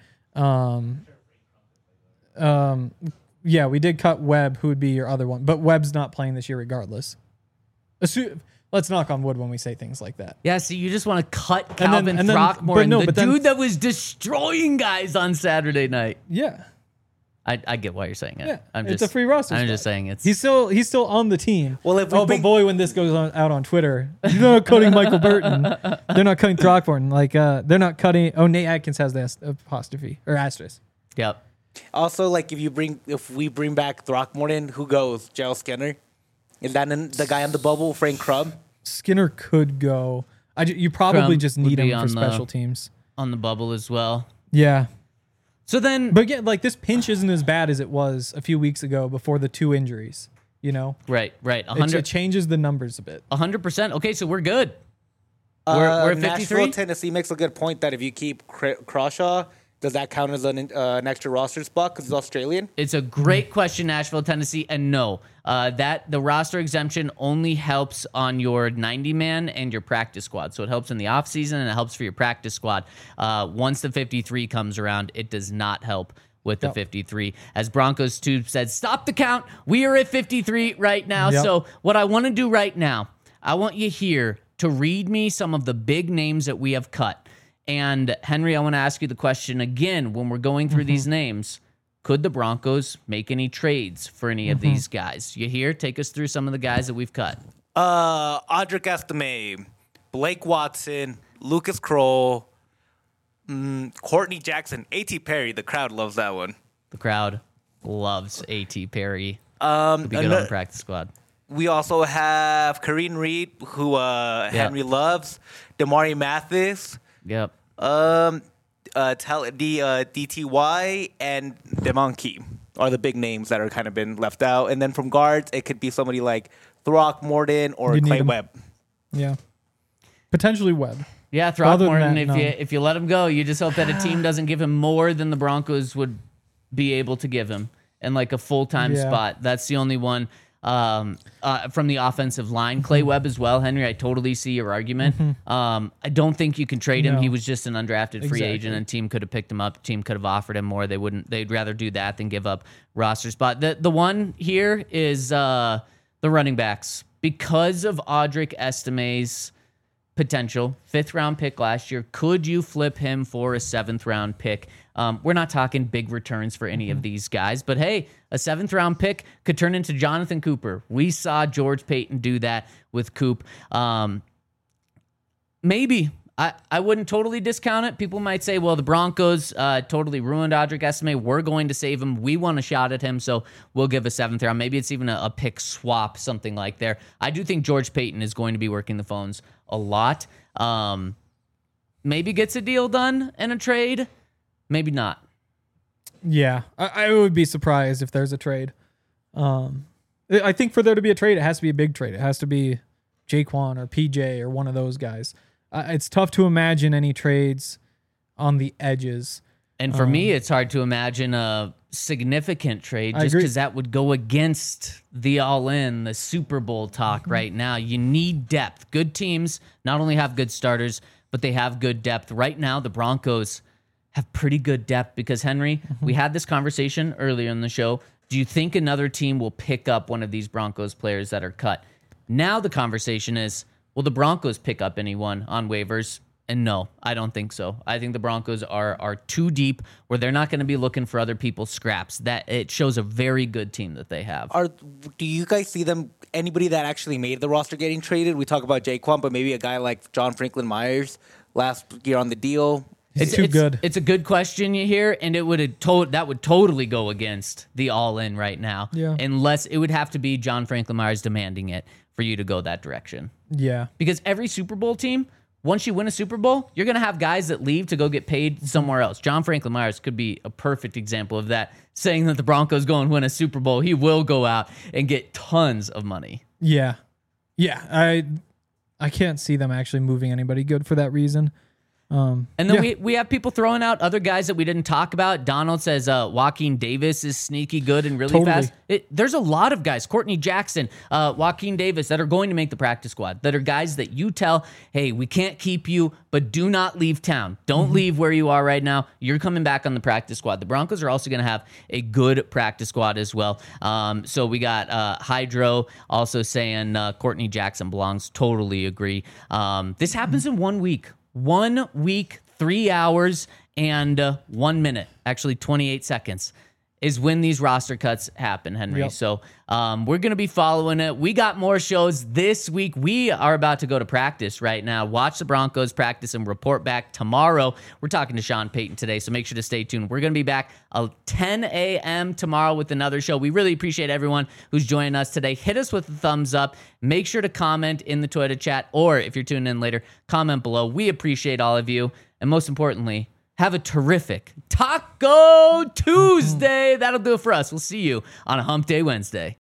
Yeah, we did cut Webb, who would be your other one, but Webb's not playing this year regardless. Let's knock on wood when we say things like that. Yeah, see, you just want to cut And then- Calvin and then- Throckmorton, but no, the but then- dude that was destroying guys on Saturday night. Yeah, I get why you're saying it. yeah. I'm It's just a free roster. I'm spot. just saying it's He's still on the team. Well, if we but bring- boy, when this goes out on Twitter, you're not cutting Michael Burton. They're not cutting Throckmorton. Like they're not cutting. Oh, Nate Atkins has the apostrophe or asterisk. yep. Also, like if we bring back Throckmorton, who goes? Gerald Skinner? Is that the guy on the bubble, Frank Crum? Skinner could go. You probably Crum just would need be him for on the- special teams. On the bubble as well. Yeah. So then But again, like this pinch isn't as bad as it was a few weeks ago before the 2 injuries. You know, right. it 100 changes the numbers a bit. 100%. Okay, so we're good. We're at 53. Nashville, Tennessee makes a good point that if you keep Crawshaw, Does that count as an extra roster spot because he's Australian? It's a great question, Nashville, Tennessee, and no, that the roster exemption only helps on your 90-man and your practice squad. So it helps in the offseason and it helps for your practice squad. Once the 53 comes around, it does not help with the 53. As Broncos Tube said, stop the count. We are at 53 right now. So what I want to do right now, I want you here to read me some of the big names that we have cut. And Henry, I want to ask you the question again when we're going through these names. Could the Broncos make any trades for any of these guys? You hear? Take us through some of the guys that we've cut. Audric Estime, Blake Watson, Lucas Kroll, Courtney Jackson, A.T. Perry. The crowd loves that one. The crowd loves A.T. Perry. Could be good on the practice squad. We also have Kareem Reed, who Henry loves, Damari Mathis. Yep. DTY and Demonkey are the big names that are kind of been left out. And then from guards, it could be somebody like Throckmorton or Clay Webb. Yeah. Potentially Webb. Yeah, Throckmorton, if you let him go, you just hope that a team doesn't give him more than the Broncos would be able to give him in like a full-time spot. That's the only one. From the offensive line, Clay Webb as well. Henry, I totally see your argument. I don't think you can trade him. He was just an undrafted free agent, and team could have picked him up. Team could have offered him more. They'd rather do that than give up roster spot. The one here is the running backs. Because of Audric Estime's potential 5th-round pick last year, could you flip him for a 7th-round pick? We're not talking big returns for any of these guys, but hey, a 7th-round pick could turn into Jonathan Cooper. We saw George Payton do that with Coop. Maybe. I wouldn't totally discount it. People might say, well, the Broncos totally ruined Audric Estime. We're going to save him. We want a shot at him, so we'll give a 7th round. Maybe it's even a pick swap, something like there. I do think George Payton is going to be working the phones a lot. Maybe gets a deal done in a trade. Maybe not. Yeah, I would be surprised if there's a trade. I think for there to be a trade, it has to be a big trade. It has to be Jaquan or PJ or one of those guys. It's tough to imagine any trades on the edges. And for me, it's hard to imagine a significant trade just because that would go against the all-in, the Super Bowl talk right now. You need depth. Good teams not only have good starters, but they have good depth. Right now, the Broncos have pretty good depth because, Henry, we had this conversation earlier in the show. Do you think another team will pick up one of these Broncos players that are cut? Now the conversation is, will the Broncos pick up anyone on waivers? And no, I don't think so. I think the Broncos are too deep where they're not going to be looking for other people's scraps. That it shows a very good team that they have. Do you guys see anybody that actually made the roster getting traded? We talk about Jaquan, but maybe a guy like John Franklin Myers last year on the deal. It's too good. It's a good question you hear, and that would totally go against the all-in right now. Yeah. Unless it would have to be John Franklin Myers demanding it for you to go that direction. Yeah. Because every Super Bowl team, once you win a Super Bowl, you're going to have guys that leave to go get paid somewhere else. John Franklin Myers could be a perfect example of that, saying that the Broncos go and win a Super Bowl. He will go out and get tons of money. Yeah. Yeah. I can't see them actually moving anybody good for that reason. And then we have people throwing out other guys that we didn't talk about. Donald says Joaquin Davis is sneaky good and really fast. There's a lot of guys, Courtney Jackson, Joaquin Davis, that are going to make the practice squad, that are guys that you tell, hey, we can't keep you, but do not leave town. Don't leave where you are right now. You're coming back on the practice squad. The Broncos are also going to have a good practice squad as well. So we got Hydro also saying Courtney Jackson belongs. Totally agree. This happens in 1 week. 1 week, 3 hours, and 1 minute, actually 28 seconds, is when these roster cuts happen, Henry. Yep. So we're going to be following it. We got more shows this week. We are about to go to practice right now. Watch the Broncos practice and report back tomorrow. We're talking to Sean Payton today, so make sure to stay tuned. We're going to be back at 10 a.m. tomorrow with another show. We really appreciate everyone who's joining us today. Hit us with a thumbs up. Make sure to comment in the Twitter chat, or if you're tuning in later, comment below. We appreciate all of you. And most importantly, have a terrific Taco Tuesday. That'll do it for us. We'll see you on a Hump Day Wednesday.